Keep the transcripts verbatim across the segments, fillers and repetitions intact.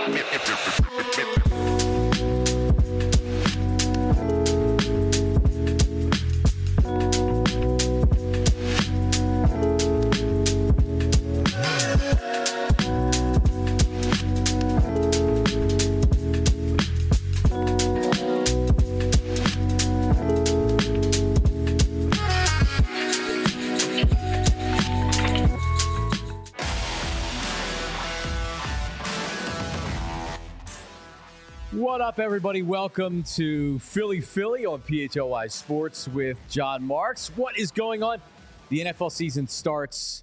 What up, everybody? Welcome to Philly Philly on P H L Y Sports with John Marks. What is going on? The N F L season starts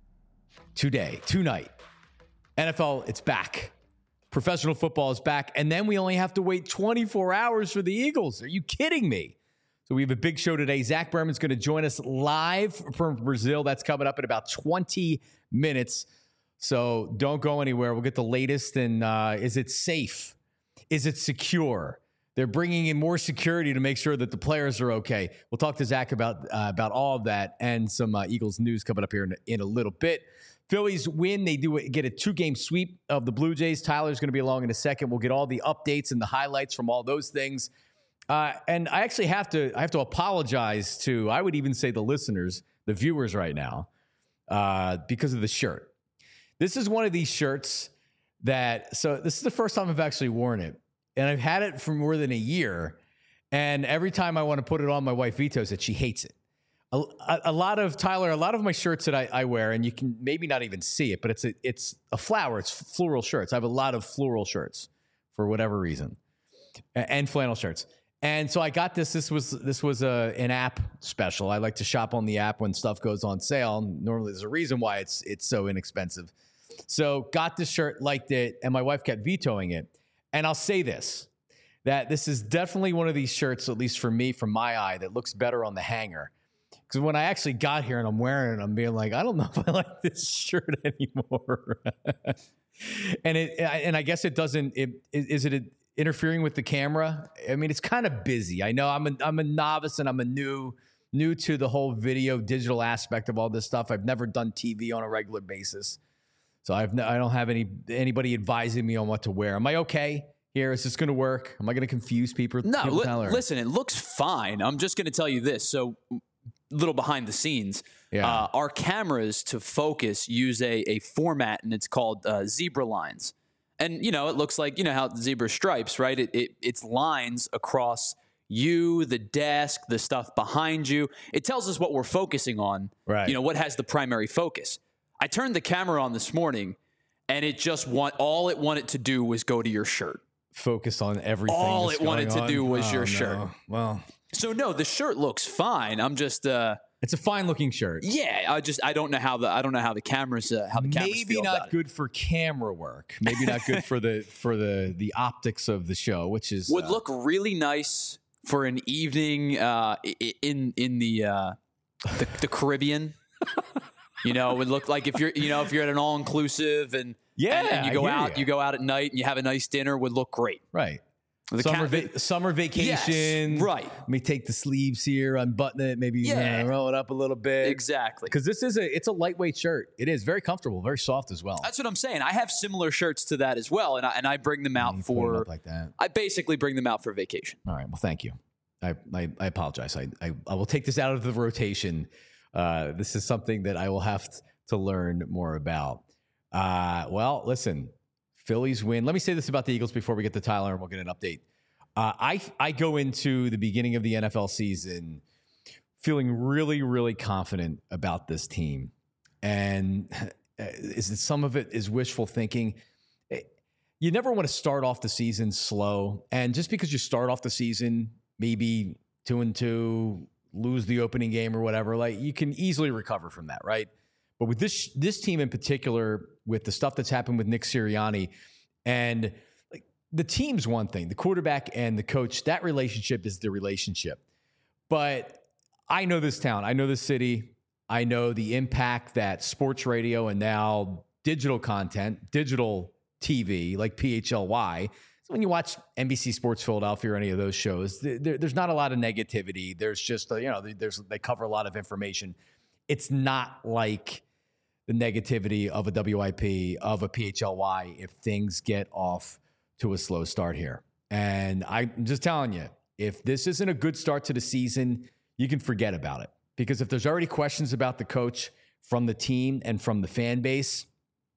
today, tonight. N F L, it's back. Professional football is back. And then we only have to wait twenty-four hours for the Eagles. Are you kidding me? So we have a big show today. Zach Berman's going to join us live from Brazil. That's coming up in about twenty minutes. So don't go anywhere. We'll get the latest. And uh, is it safe? Is it secure? They're bringing in more security to make sure that the players are okay. We'll talk to Zach about uh, about all of that and some uh, Eagles news coming up here in, in a little bit. Phillies win. They do get a two-game sweep of the Blue Jays. Tyler's going to be along in a second. We'll get all the updates and the highlights from all those things. Uh, and I actually have to I have to apologize to, I would even say the listeners, the viewers right now, uh, because of the shirt. This is one of these shirts that, so this is the first time I've actually worn it. And I've had it for more than a year. And every time I want to put it on, my wife vetoes it. She hates it. A, a, a lot of, Tyler, a lot of my shirts that I, I wear, and you can maybe not even see it, but it's a, it's a flower. It's floral shirts. I have a lot of floral shirts for whatever reason, and flannel shirts. And so I got this. This was this was a, an app special. I like to shop on the app when stuff goes on sale. Normally there's a reason why it's it's so inexpensive. So got this shirt, liked it, and my wife kept vetoing it. And I'll say this, that this is definitely one of these shirts, at least for me, from my eye, that looks better on the hanger. Because when I actually got here and I'm wearing it, I'm being like, I don't know if I like this shirt anymore. and it, and I guess it doesn't, it, is it interfering with the camera? I mean, it's kind of busy. I know I'm a, I'm a novice and I'm a new, new to the whole video digital aspect of all this stuff. I've never done T V on a regular basis. So I've no, I don't have any anybody advising me on what to wear. Am I okay here? Is this going to work? Am I going to confuse people? No, people li- listen, it looks fine. I'm just going to tell you this. So little behind the scenes, yeah. uh, our cameras to focus use a, a format, and it's called uh, zebra lines. And, you know, it looks like, you know, how zebra stripes, right? It, it It's lines across you, the desk, the stuff behind you. It tells us what we're focusing on, right? You know, what has the primary focus. I turned the camera on this morning, and it just want all it wanted to do was go to your shirt. Focus on everything. All it wanted on. to do was oh, your no. shirt. Well, so no, the shirt looks fine. I'm just. Uh, it's a fine looking shirt. Yeah, I just I don't know how the I don't know how the cameras uh, how the cameras maybe feel not about good it. for camera work. Maybe not good for the for the the optics of the show, which is would uh, look really nice for an evening uh, in in the uh, the, the Caribbean. You know, it would look like if you're, you know, if you're at an all-inclusive and yeah, and, and you go out, you. you go out at night and you have a nice dinner, would look great. Right. The summer, cat, va- summer vacation. Yes, right. Let me take the sleeves here, unbutton it, maybe Yeah. uh, roll it up a little bit. Exactly. Because this is a, it's a lightweight shirt. It is very comfortable, very soft as well. That's what I'm saying. I have similar shirts to that as well, and I, and I bring them out You put for it up like that. I basically bring them out for vacation. All right. Well, thank you. I I, I apologize. I, I I will take this out of the rotation. Uh, this is something that I will have to, to learn more about. Uh, well, listen, Phillies win. Let me say this about the Eagles before we get to Tyler, and we'll get an update. Uh, I I go into the beginning of the N F L season feeling really, really confident about this team. And is it, some of it is wishful thinking. You never want to start off the season slow. And just because you start off the season, maybe two and two, lose the opening game or whatever, like you can easily recover from that, right? But with this this team in particular, with the stuff that's happened with Nick Sirianni, and like the team's one thing, the quarterback and the coach, that relationship is the relationship. But I know this town, I know this city, I know the impact that sports radio and now digital content, digital T V like P H L Y. So when you watch N B C Sports Philadelphia or any of those shows, there, there's not a lot of negativity. There's just, you know, there's they cover a lot of information. It's not like the negativity of a W I P, of a P H L Y, if things get off to a slow start here. And I'm just telling you, if this isn't a good start to the season, you can forget about it. Because if there's already questions about the coach from the team and from the fan base,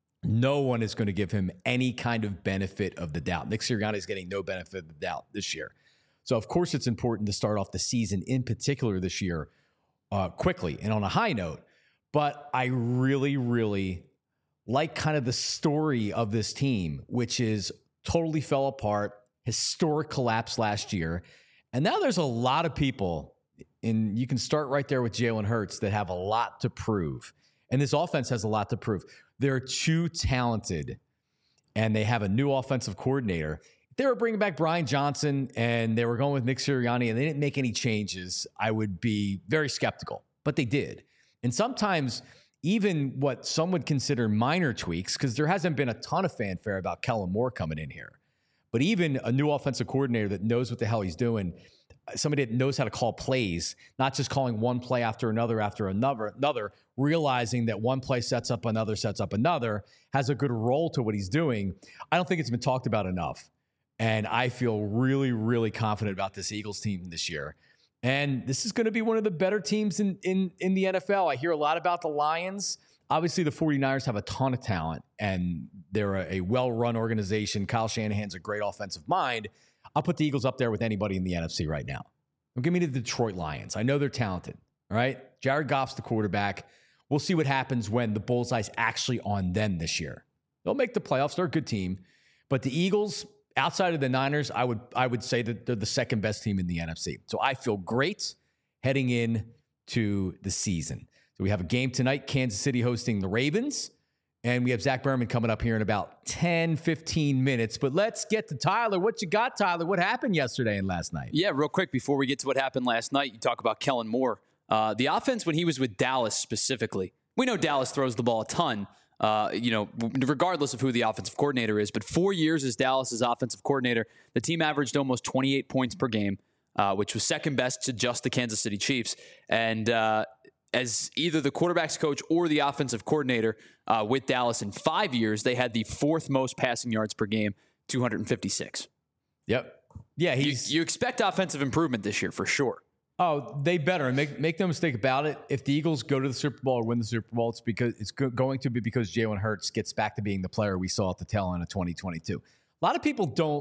no one is going to give him any kind of benefit of the doubt. Nick Sirianni is getting no benefit of the doubt this year. So, of course, it's important to start off the season, in particular this year, uh, quickly and on a high note. But I really, really like kind of the story of this team, which is totally fell apart, historic collapse last year. And now there's a lot of people, and you can start right there with Jalen Hurts, that have a lot to prove. And this offense has a lot to prove. They're too talented, and they have a new offensive coordinator. If they were bringing back Brian Johnson and they were going with Nick Sirianni and they didn't make any changes, I would be very skeptical. But they did. And sometimes even what some would consider minor tweaks, because there hasn't been a ton of fanfare about Kellen Moore coming in here. But even a new offensive coordinator that knows what the hell he's doing, somebody that knows how to call plays, not just calling one play after another after another, another, realizing that one play sets up another, sets up another, has a good role to what he's doing. I don't think it's been talked about enough. And I feel really, really confident about this Eagles team this year. And this is going to be one of the better teams in, in, in the N F L. I hear a lot about the Lions. Obviously, the 49ers have a ton of talent, and they're a, a well-run organization. Kyle Shanahan's a great offensive mind. I'll put the Eagles up there with anybody in the N F C right now. Don't give me the Detroit Lions. I know they're talented, all right? Jared Goff's the quarterback. We'll see what happens when the bullseye's actually on them this year. They'll make the playoffs. They're a good team. But the Eagles, outside of the Niners, I would I would say that they're the second best team in the N F C. So I feel great heading in to the season. So we have a game tonight, Kansas City hosting the Ravens. And we have Zach Berman coming up here in about ten, fifteen minutes. But let's get to Tyler. What you got, Tyler? What happened yesterday and last night? Yeah, real quick, before we get to what happened last night, you talk about Kellen Moore. Uh, the offense, when he was with Dallas specifically, we know Dallas throws the ball a ton, uh, you know, regardless of who the offensive coordinator is. But four years as Dallas's offensive coordinator, the team averaged almost twenty-eight points per game, uh, which was second best to just the Kansas City Chiefs. And uh, as either the quarterback's coach or the offensive coordinator uh, with Dallas in five years, they had the fourth most passing yards per game, two hundred fifty-six. Yep. Yeah, he's. You, you expect offensive improvement this year for sure. Oh, they better. And make make no mistake about it. If the Eagles go to the Super Bowl or win the Super Bowl, it's because it's go- going to be because Jalen Hurts gets back to being the player we saw at the tail end of twenty twenty-two. A lot of people don't.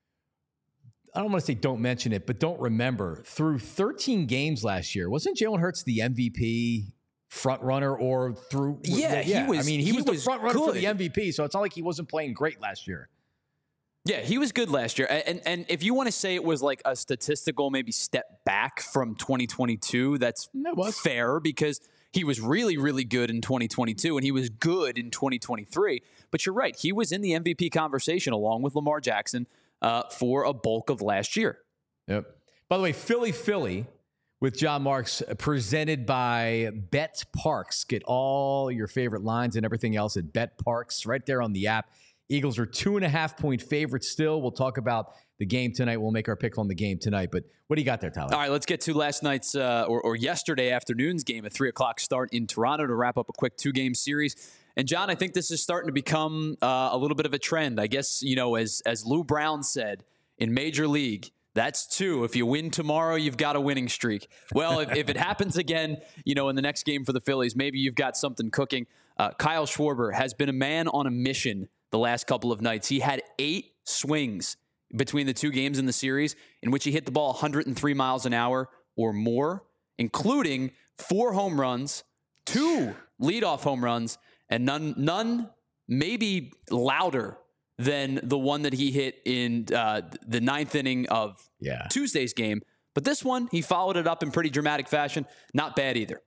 I don't want to say don't mention it, but don't remember. Through thirteen games last year, wasn't Jalen Hurts the M V P front runner or through? Yeah, yeah. he was. I mean, he, he was the was front runner good. for the M V P, so it's not like he wasn't playing great last year. Yeah, he was good last year. And and if you want to say it was like a statistical maybe step back from twenty twenty-two, that's fair because he was really, really good in twenty twenty-two and he was good in twenty twenty-three. But you're right. He was in the M V P conversation along with Lamar Jackson uh, for a bulk of last year. Yep. By the way, Philly, Philly with John Marks, presented by Bet Parks. Get all your favorite lines and everything else at Bet Parks right there on the app. Eagles are two and a half point favorites still. We'll talk about the game tonight. We'll make our pick on the game tonight. But what do you got there, Tyler? All right, let's get to last night's uh, or, or yesterday afternoon's game, a three o'clock start in Toronto to wrap up a quick two-game series. And, John, I think this is starting to become uh, a little bit of a trend. I guess, you know, as as Lou Brown said in Major League, that's two. If you win tomorrow, you've got a winning streak. Well, if, if it happens again, you know, in the next game for the Phillies, maybe you've got something cooking. Uh, Kyle Schwarber has been a man on a mission the last couple of nights. He had eight swings between the two games in the series in which he hit the ball one hundred three miles an hour or more, including four home runs, two leadoff home runs, and none, none maybe louder than the one that he hit in uh, the ninth inning of yeah. Tuesday's game. But this one, he followed it up in pretty dramatic fashion. Not bad either.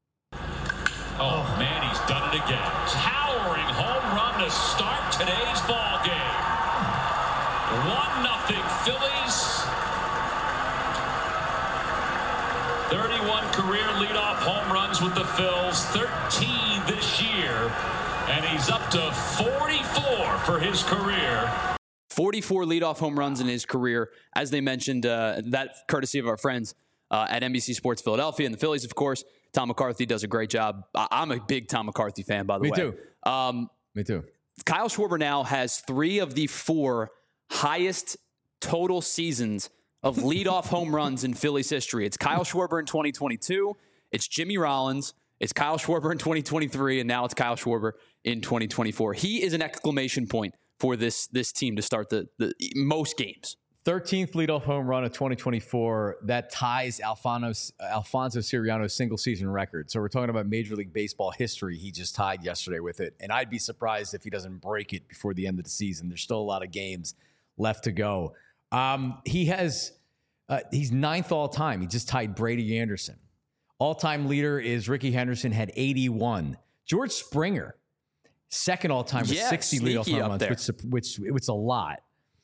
Oh, man, he's done it again. Towering home run to start today's ball game. one nothing Phillies. thirty-one career leadoff home runs with the Phils. thirteen this year. And he's up to forty-four for his career. forty-four leadoff home runs in his career. As they mentioned, uh, that courtesy of our friends uh, at N B C Sports Philadelphia and the Phillies, of course. Tom McCarthy does a great job. I- I'm a big Tom McCarthy fan, by the Me way. Me too. Um, Me too. Kyle Schwarber now has three of the four highest total seasons of leadoff home runs in Phillies history. It's Kyle Schwarber in twenty twenty-two. It's Jimmy Rollins. It's Kyle Schwarber in twenty twenty-three, and now it's Kyle Schwarber in twenty twenty-four. He is an exclamation point for this this team to start the, the most games. thirteenth leadoff home run of twenty twenty-four. That ties Alfonso, Alfonso Siriano's single-season record. So we're talking about Major League Baseball history. He just tied yesterday with it. And I'd be surprised if he doesn't break it before the end of the season. There's still a lot of games left to go. Um, he has uh, he's ninth all-time. He just tied Brady Anderson. All-time leader is Ricky Henderson, had eighty-one. George Springer, second all-time with yeah, sixty leadoff home runs, there. which, which it's a lot.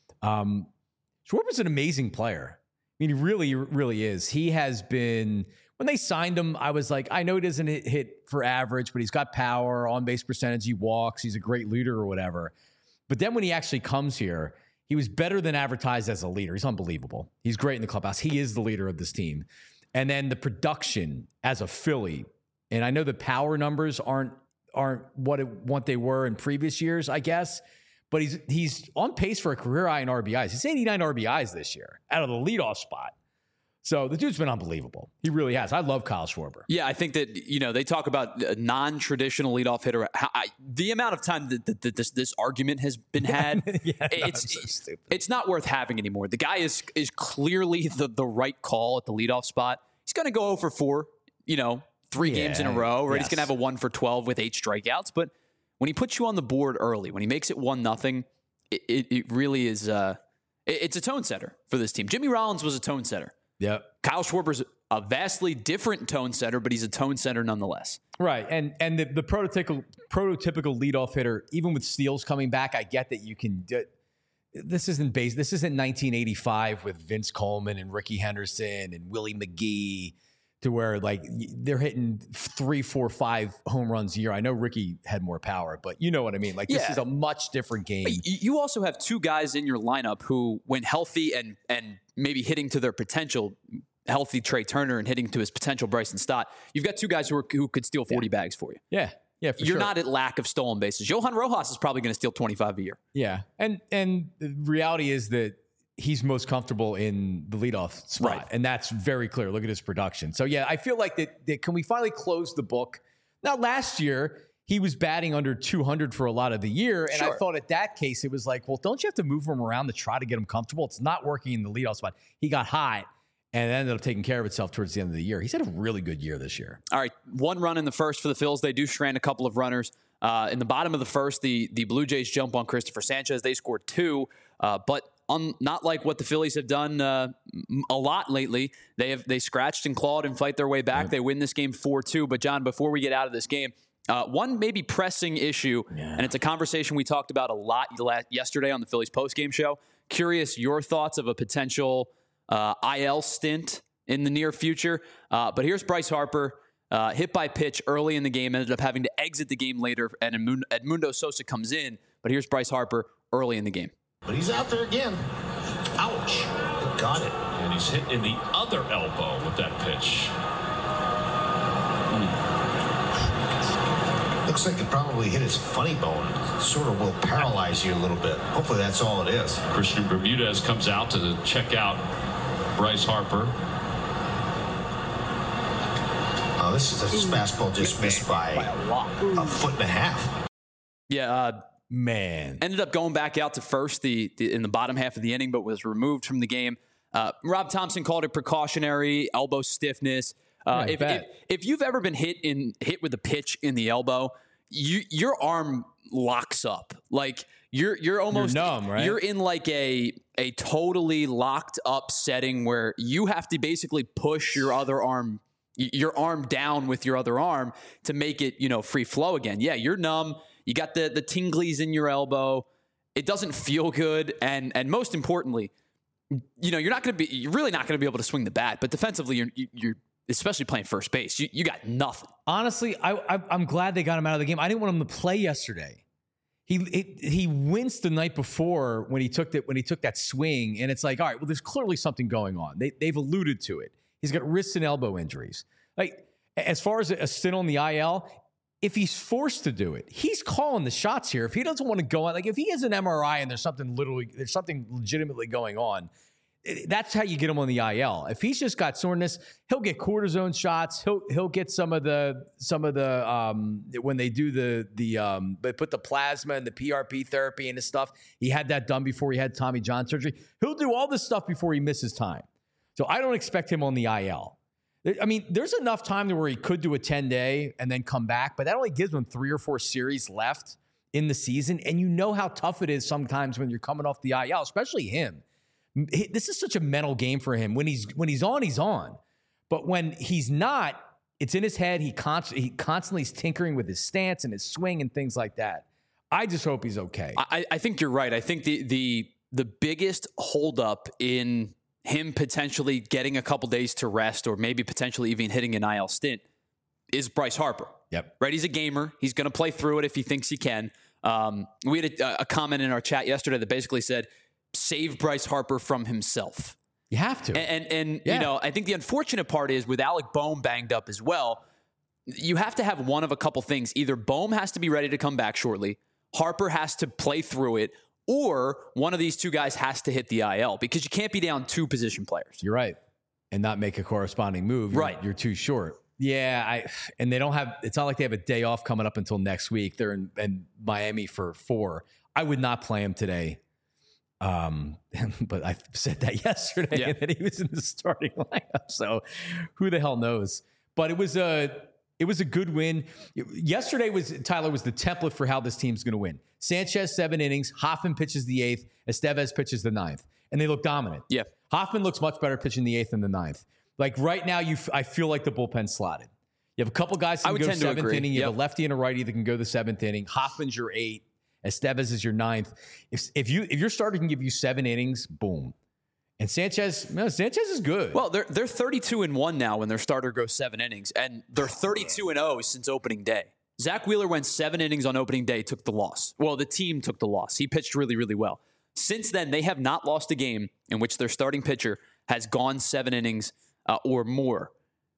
Um, Schwarber's an amazing player. I mean, he really, really is. He has been, when they signed him, I was like, I know he doesn't hit, hit for average, but he's got power, on-base percentage, he walks, he's a great leader or whatever. But then when he actually comes here, he was better than advertised as a leader. He's unbelievable. He's great in the clubhouse. He is the leader of this team. And then the production as a Philly, and I know the power numbers aren't aren't what it, what they were in previous years, I guess, but he's he's on pace for a career high in R B Is. He's eighty-nine R B Is this year out of the leadoff spot. So the dude's been unbelievable. He really has. I love Kyle Schwarber. Yeah, I think that, you know, they talk about a non-traditional leadoff hitter. How, I, the amount of time that, that, that this, this argument has been had, yeah, no, it's it's so stupid. It's not worth having anymore. The guy is is clearly the, the right call at the leadoff spot. He's going to go oh for four, you know, three Yeah, games in a row, or yes. he's going to have a one for twelve with eight strikeouts. But when he puts you on the board early, when he makes it one nothing, it, it, it really is uh, it, it's a tone setter for this team. Jimmy Rollins was a tone setter. Yep. Kyle Schwarber's a vastly different tone setter, but he's a tone setter nonetheless. Right. And and the, the prototypical prototypical leadoff hitter, even with steals coming back, I get that you can do, this isn't base. This isn't nineteen eighty-five with Vince Coleman and Ricky Henderson and Willie McGee, to where like they're hitting three, four, five home runs a year. I know Ricky had more power, but you know what I mean? Like this Yeah. is a much different game. But you also have two guys in your lineup who, when healthy and and maybe hitting to their potential, healthy Trey Turner and hitting to his potential Bryson Stott, you've got two guys who are, who could steal forty Yeah. bags for you. Yeah. Yeah, for You're sure. not at lack of stolen bases. Johan Rojas is probably going to steal twenty-five a year. Yeah. And and the reality is that he's most comfortable in the leadoff spot. Right. And that's very clear. Look at his production. So, yeah, I feel like that, that can we finally close the book? Now, last year, he was batting under two hundred for a lot of the year. And Sure. I thought at that case, it was like, well, don't you have to move him around to try to get him comfortable? It's not working in the leadoff spot. He got hot and it ended up taking care of itself towards the end of the year. He's had a really good year this year. All right, one run in the first for the Phils. They do strand a couple of runners. Uh, in the bottom of the first, the the Blue Jays jump on Christopher Sanchez. They scored two, uh, but un, not like what the Phillies have done uh, a lot lately. They have they scratched and clawed and fight their way back. Yep. They win this game four two. But, John, before we get out of this game, uh, one maybe pressing issue, Yeah. and it's a conversation we talked about a lot yesterday on the Phillies postgame show. Curious your thoughts of a potential uh, I L stint in the near future. Uh, but here's Bryce Harper. Uh, hit by pitch early in the game, ended up having to exit the game later, and Edmundo, Edmundo Sosa comes in. But here's Bryce Harper early in the game. But he's out there again. Ouch. Got it. And he's hit in the other elbow with that pitch. Looks like it probably hit his funny bone. Sort of will paralyze you a little bit. Hopefully that's all it is. Christian Bermudez comes out to check out Bryce Harper. Oh, this is this fastball just missed by a foot and a half. Yeah, uh, Man. ended up going back out to first the, the in the bottom half of the inning, but was removed from the game. Uh, Rob Thompson called it precautionary elbow stiffness. Uh, Yeah, I if, if bet. if you've ever been hit in hit with a pitch in the elbow, you your arm locks up. Like you're you're almost numb, right? You're in like a a totally locked up setting where you have to basically push your other arm your arm down with your other arm to make it, you know, free flow again. Yeah, you're numb. You got the the tinglies in your elbow. It doesn't feel good, and and most importantly, you know, you're not going to be you're really not going to be able to swing the bat. But defensively, you're you're especially playing first base. You you got nothing. Honestly, I, I, I'm glad they got him out of the game. I didn't want him to play yesterday. He it, he winced the night before when he took that when he took that swing, and it's like, all right, well, there's clearly something going on. They they've alluded to it. He's got wrist and elbow injuries. Like As far as a stint on the I L, if he's forced to do it, he's calling the shots here. If he doesn't want to go on, like if he has an M R I and there's something literally, there's something legitimately going on, that's how you get him on the I L. If he's just got soreness, he'll get cortisone shots. He'll he'll get some of the some of the um, when they do the the um, they put the plasma and the P R P therapy and his stuff. He had that done before he had Tommy John surgery. He'll do all this stuff before he misses time. So I don't expect him on the I L. I mean, there's enough time to where he could do a ten day and then come back, but that only gives him three or four series left in the season. And you know how tough it is sometimes when you're coming off the I L, especially him. This is such a mental game for him. When he's when he's on, he's on. But when he's not, it's in his head. He, const- he constantly is tinkering with his stance and his swing and things like that. I just hope he's okay. I, I think you're right. I think the the the biggest holdup in him potentially getting a couple days to rest or maybe potentially even hitting an I L stint is Bryce Harper. Yep. Right? He's a gamer. He's going to play through it if he thinks he can. Um, we had a, a comment in our chat yesterday that basically said, save Bryce Harper from himself. You have to. And, and, and yeah. you know, I think the unfortunate part is with Alec Boehm banged up as well, you have to have one of a couple things. Either Boehm has to be ready to come back shortly, Harper has to play through it, or one of these two guys has to hit the I L because you can't be down two position players. You're right. And not make a corresponding move. You're, right. You're too short. Yeah. I and they don't have, it's not like they have a day off coming up until next week. They're in, in Miami for four. I would not play him today. Um, but I said that yesterday yeah. that he was in the starting lineup. So who the hell knows? But it was a it was a good win. Yesterday was Tyler was the template for how this team's going to win. Sanchez seven innings, Hoffman pitches the eighth, Estevez pitches the ninth, and they look dominant. Yeah, Hoffman looks much better pitching the eighth than the ninth. Like right now, you f- I feel like the bullpen's slotted. You have a couple guys that can go seventh inning. You yep. have a lefty and a righty that can go the seventh inning. Hoffman's your eight. Estevez is your ninth. If if you if your starter can give you seven innings, boom. And Sanchez, no, Sanchez is good. Well, they're they're thirty-two and one now when their starter goes seven innings, and they're thirty-two and oh since opening day. Zach Wheeler went seven innings on opening day, took the loss. Well, the team took the loss. He pitched really, really well. Since then, they have not lost a game in which their starting pitcher has gone seven innings uh, or more.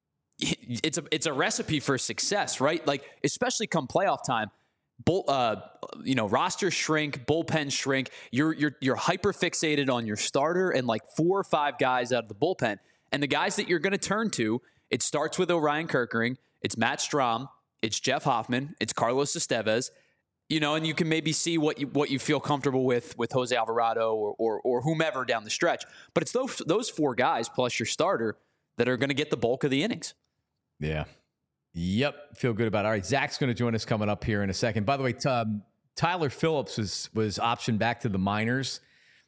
It's a it's a recipe for success, right? Like especially come playoff time. Bull, uh, you know, roster shrink, bullpen shrink. You're you're you're hyper fixated on your starter and like four or five guys out of the bullpen, and the guys that you're going to turn to. It starts with Orion Kerkering. It's Matt Strahm. It's Jeff Hoffman. It's Carlos Estevez. You know, and you can maybe see what you what you feel comfortable with with Jose Alvarado or or, or whomever down the stretch. But it's those those four guys plus your starter that are going to get the bulk of the innings. Yeah. Yep, feel good about it. All right, Zach's going to join us coming up here in a second. By the way, um, Tyler Phillips was was optioned back to the minors.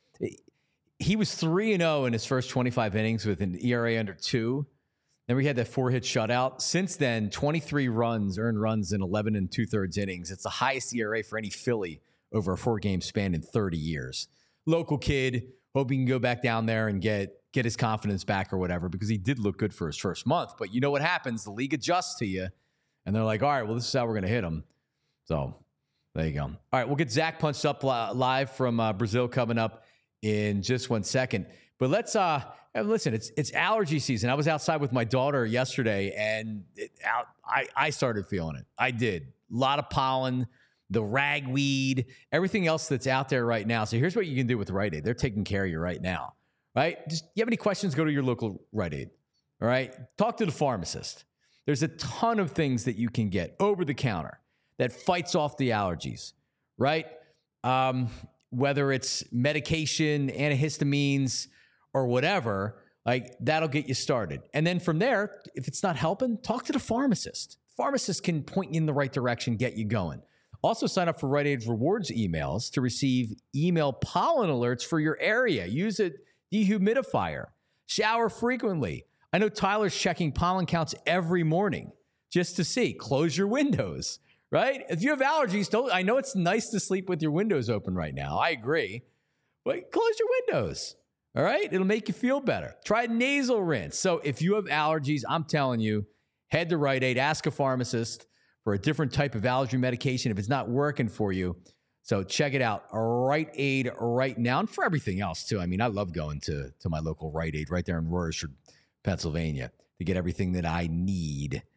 He was three and zero in his first twenty-five innings with an E R A under two. Then we had that four hit shutout. Since then, twenty-three runs, earned runs in eleven and two thirds innings. It's the highest E R A for any Philly over a four game span in thirty years. Local kid, hope he can go back down there and get. get his confidence back or whatever, because he did look good for his first month. But you know what happens? The league adjusts to you, and they're like, all right, well, this is how we're going to hit him. So there you go. All right, we'll get Zach punched up live from uh, Brazil coming up in just one second. But let's, uh, listen, it's it's allergy season. I was outside with my daughter yesterday, and it, out, I, I started feeling it. I did. A lot of pollen, the ragweed, everything else that's out there right now. So here's what you can do with Rite Aid. They're taking care of you right now. Right? Just, you have any questions, go to your local Rite Aid. All right? Talk to the pharmacist. There's a ton of things that you can get over the counter that fights off the allergies, right? Um, whether it's medication, antihistamines, or whatever, like that'll get you started. And then from there, if it's not helping, talk to the pharmacist. The pharmacist can point you in the right direction, get you going. Also, sign up for Rite Aid Rewards emails to receive email pollen alerts for your area. Use it. Dehumidifier. Shower frequently. I know Tyler's checking pollen counts every morning just to see. Close your windows, right? If you have allergies, don't. I know it's nice to sleep with your windows open right now. I agree. But close your windows, all right? It'll make you feel better. Try nasal rinse. So if you have allergies, I'm telling you, head to Rite Aid. Ask a pharmacist for a different type of allergy medication if it's not working for you. So check it out, Rite Aid right now, and for everything else too. I mean, I love going to, to my local Rite Aid right there in Royersford, Pennsylvania, to get everything that I need.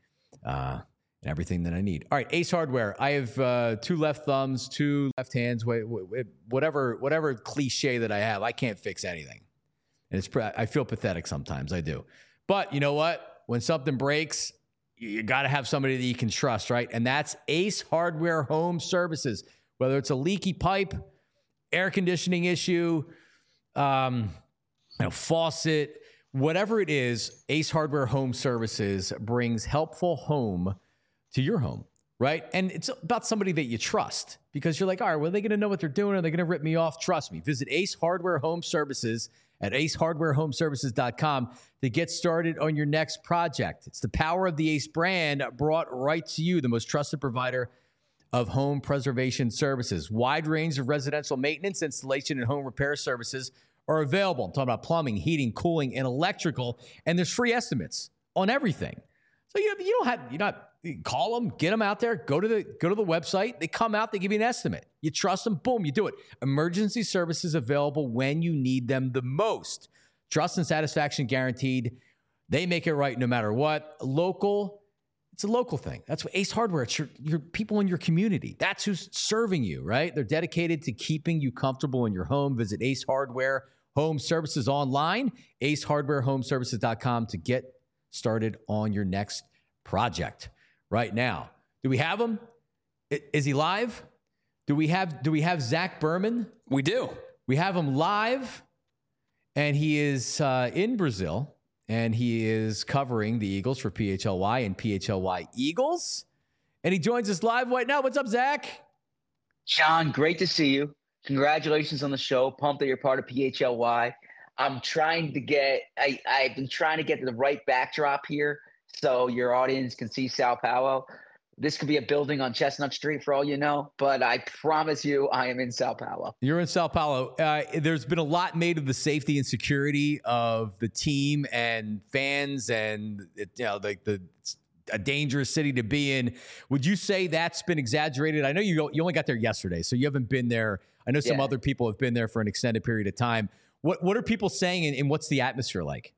uh, and everything that I need. All right, Ace Hardware. I have uh, two left thumbs, two left hands. Whatever, whatever cliche that I have, I can't fix anything. And it's I feel pathetic sometimes. I do. But you know what? When something breaks, you got to have somebody that you can trust, right? And that's Ace Hardware Home Services. Whether it's a leaky pipe, air conditioning issue, um, you know, faucet, whatever it is, Ace Hardware Home Services brings helpful home to your home, right? And it's about somebody that you trust because you're like, all right, well, are they going to know what they're doing? Are they going to rip me off? Trust me. Visit Ace Hardware Home Services at ace hardware home services dot com to get started on your next project. It's the power of the Ace brand brought right to you, the most trusted provider of home preservation services. Wide range of residential maintenance, installation, and home repair services are available. I'm talking about plumbing, heating, cooling, and electrical, and there's free estimates on everything. So you, you don't have, you not you call them, get them out there, go to the go to the website. They come out, they give you an estimate. You trust them, boom, you do it. Emergency services available when you need them the most. Trust and satisfaction guaranteed. They make it right no matter what. Local, it's a local thing. That's what Ace Hardware. It's your, your people in your community. That's who's serving you, right? They're dedicated to keeping you comfortable in your home. Visit Ace Hardware Home Services online, ace hardware home services dot com to get started on your next project right now. Do we have him? Is he live? Do we have do we have Zach Berman? We do. We have him live, and he is uh, in Brazil, and he is covering the Eagles for P H L Y and P H L Y Eagles, and he joins us live right now. What's up, Zach? John, great to see you. Congratulations on the show. Pumped that you're part of P H L Y. I'm trying to get I, I've been trying to get the right backdrop here so your audience can see Sao Paulo. This could be a building on Chestnut Street for all you know, but I promise you I am in Sao Paulo. You're in Sao Paulo. Uh, there's been a lot made of the safety and security of the team and fans and, it, you know, like the, the a dangerous city to be in. Would you say that's been exaggerated? I know you you only got there yesterday, so you haven't been there. I know some yeah. other people have been there for an extended period of time. What what are people saying, and, and what's the atmosphere like?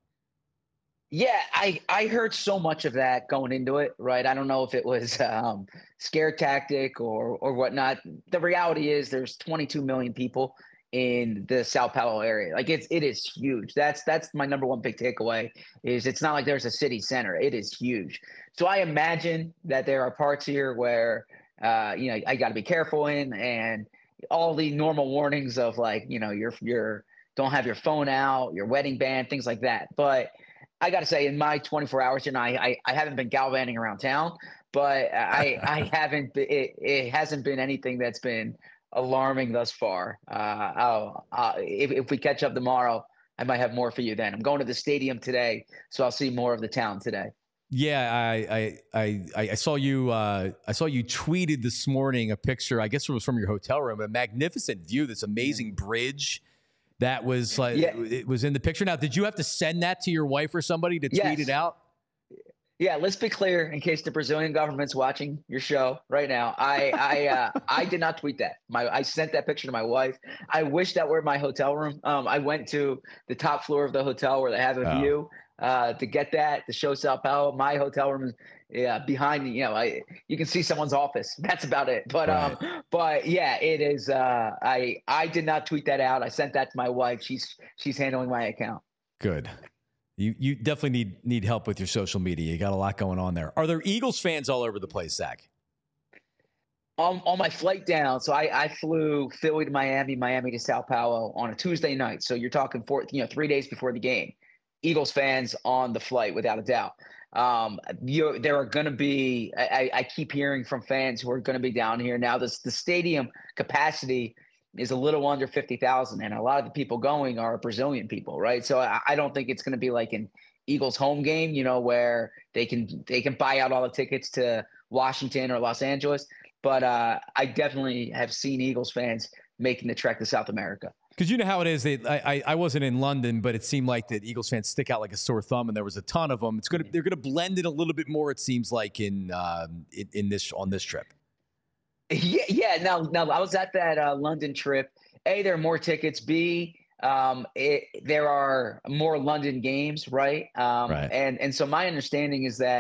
Yeah, I, I heard so much of that going into it, right? I don't know if it was um, scare tactic or or whatnot. The reality is there's twenty-two million people in the Sao Paulo area. Like it's it is huge. That's that's my number one big takeaway is it's not like there's a city center. It is huge. So I imagine that there are parts here where uh, you know I got to be careful in, and all the normal warnings of like you know your your don't have your phone out, your wedding band, things like that. But I got to say, in my twenty-four hours, you know, I, I, I haven't been gallivanting around town, but I I haven't. It, it hasn't been anything that's been alarming thus far. Uh, I'll, uh, if if we catch up tomorrow, I might have more for you then. I'm going to the stadium today, so I'll see more of the town today. Yeah, I I I, I saw you. Uh, I saw you tweeted this morning a picture. I guess it was from your hotel room. A magnificent view. This amazing bridge. That was like yeah. it was in the picture. Now, did you have to send that to your wife or somebody to tweet yes. it out? Yeah, let's be clear in case the Brazilian government's watching your show right now. I I uh, I did not tweet that. My I sent that picture to my wife. I wish that were my hotel room. Um, I went to the top floor of the hotel where they have a oh. view uh, to get that to show Sao Paulo. My hotel room is yeah behind. You know, I you can see someone's office. That's about it. But right. um, but yeah, it is. Uh, I I did not tweet that out. I sent that to my wife. She's she's handling my account. Good. You you definitely need need help with your social media. You got a lot going on there. Are there Eagles fans all over the place, Zach? On on my flight down, so I, I flew Philly to Miami, Miami to Sao Paulo on a Tuesday night. So you're talking four, you know, three days before the game. Eagles fans on the flight, without a doubt. Um, you there are going to be. I, I keep hearing from fans who are going to be down here now. This the stadium capacity is a little under fifty thousand, and a lot of the people going are Brazilian people, right? So I, I don't think it's going to be like an Eagles home game, you know, where they can they can buy out all the tickets to Washington or Los Angeles. But uh, I definitely have seen Eagles fans making the trek to South America. Because you know how it is. They, I, I wasn't in London, but it seemed like that Eagles fans stick out like a sore thumb, and there was a ton of them. It's gonna they're gonna blend it a little bit more. It seems like in uh, in, in this on this trip. Yeah, yeah. Now, now I was at that uh, London trip. A, there are more tickets. B, um, it, there are more London games, right? Um, right. And and so my understanding is that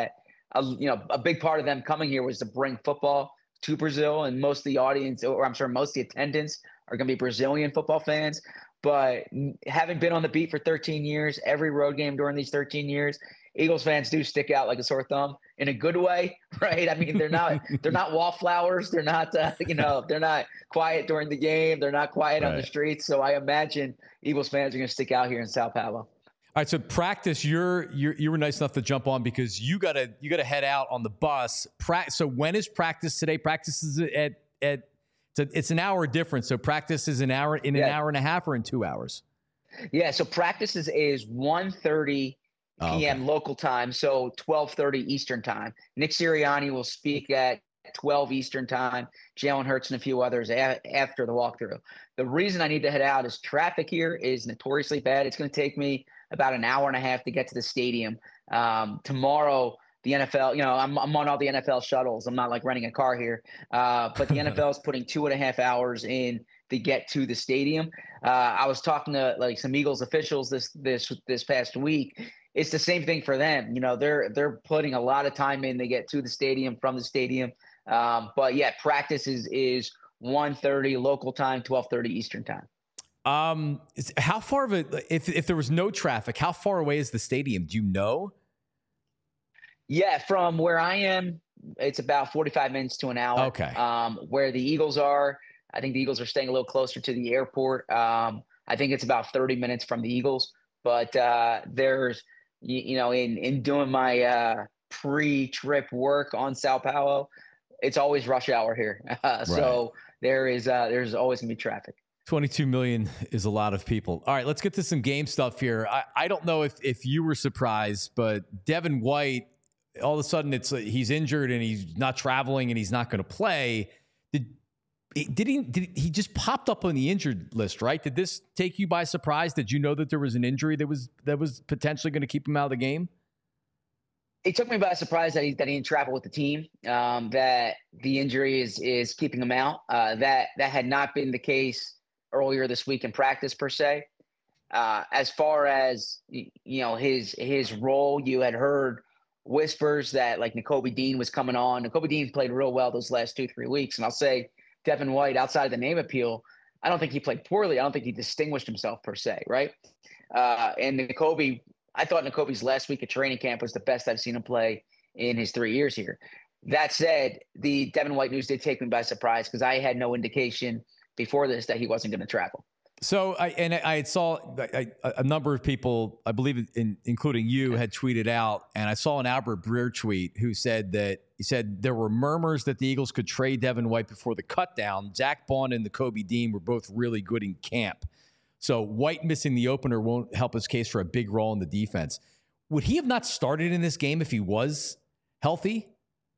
a, you know, a big part of them coming here was to bring football to Brazil, and most of the audience, or I'm sure most of the attendants, are going to be Brazilian football fans. But having been on the beat for thirteen years, every road game during these thirteen years, Eagles fans do stick out like a sore thumb in a good way, right? I mean, they're not they're not wallflowers. They're not uh, you know they're not quiet during the game. They're not quiet right. on the streets. So I imagine Eagles fans are going to stick out here in Sao Paulo. All right, so practice. You're you're you were nice enough to jump on because you gotta you gotta head out on the bus. Pra- so when is practice today? Practice is at at it's, a, it's an hour difference. So practice is an hour in an yeah. hour and a half or in two hours. Yeah. So practice is is one thirty p m. Oh, okay. local time. So twelve thirty Eastern time. Nick Sirianni will speak at twelve Eastern time. Jalen Hurts and a few others a- after the walkthrough. The reason I need to head out is traffic here is notoriously bad. It's going to take me about an hour and a half to get to the stadium. Um, tomorrow, the N F L, you know, I'm, I'm on all the N F L shuttles. I'm not like renting a car here, uh, but the N F L is putting two and a half hours in to get to the stadium. Uh, I was talking to like some Eagles officials this, this, this past week. It's the same thing for them. You know, they're, they're putting a lot of time in to get to the stadium from the stadium. Um, but yeah, practice is, is one thirty local time, twelve thirty Eastern time. Um, how far of a, if, if there was no traffic, how far away is the stadium? Do you know? Yeah. From where I am, it's about forty-five minutes to an hour. Okay. Um, where the Eagles are, I think the Eagles are staying a little closer to the airport. Um, I think it's about thirty minutes from the Eagles, but, uh, there's, you, you know, in, in doing my, uh, pre-trip work on Sao Paulo, it's always rush hour here. Uh, right. So there is, uh, there's always gonna be traffic. twenty-two million is a lot of people. All right, let's get to some game stuff here. I, I don't know if, if you were surprised, but Devin White, all of a sudden it's he's injured and he's not traveling and he's not going to play. Did did he did he just popped up on the injured list, right? Did this take you by surprise? Did you know that there was an injury that was that was potentially going to keep him out of the game? It took me by surprise that he that he didn't travel with the team. Um, that the injury is is keeping him out. Uh, that that had not been the case earlier this week in practice per se. Uh, as far as, you know, his, his role, you had heard whispers that like Nakobe Dean was coming on. Nakobe Dean played real well those last two, three weeks. And I'll say Devin White, outside of the name appeal, I don't think he played poorly. I don't think he distinguished himself per se. Right. Uh, and Nakobe, I thought Nakobe's last week at training camp was the best I've seen him play in his three years here. That said, the Devin White news did take me by surprise because I had no indication before this that he wasn't going to travel. So I and I saw I, a number of people, I believe, in, including you, had tweeted out, and I saw an Albert Breer tweet who said that he said there were murmurs that the Eagles could trade Devin White before the cutdown. Zach Bond and Nakobe Dean were both really good in camp, so White missing the opener won't help his case for a big role in the defense. Would he have not started in this game if he was healthy?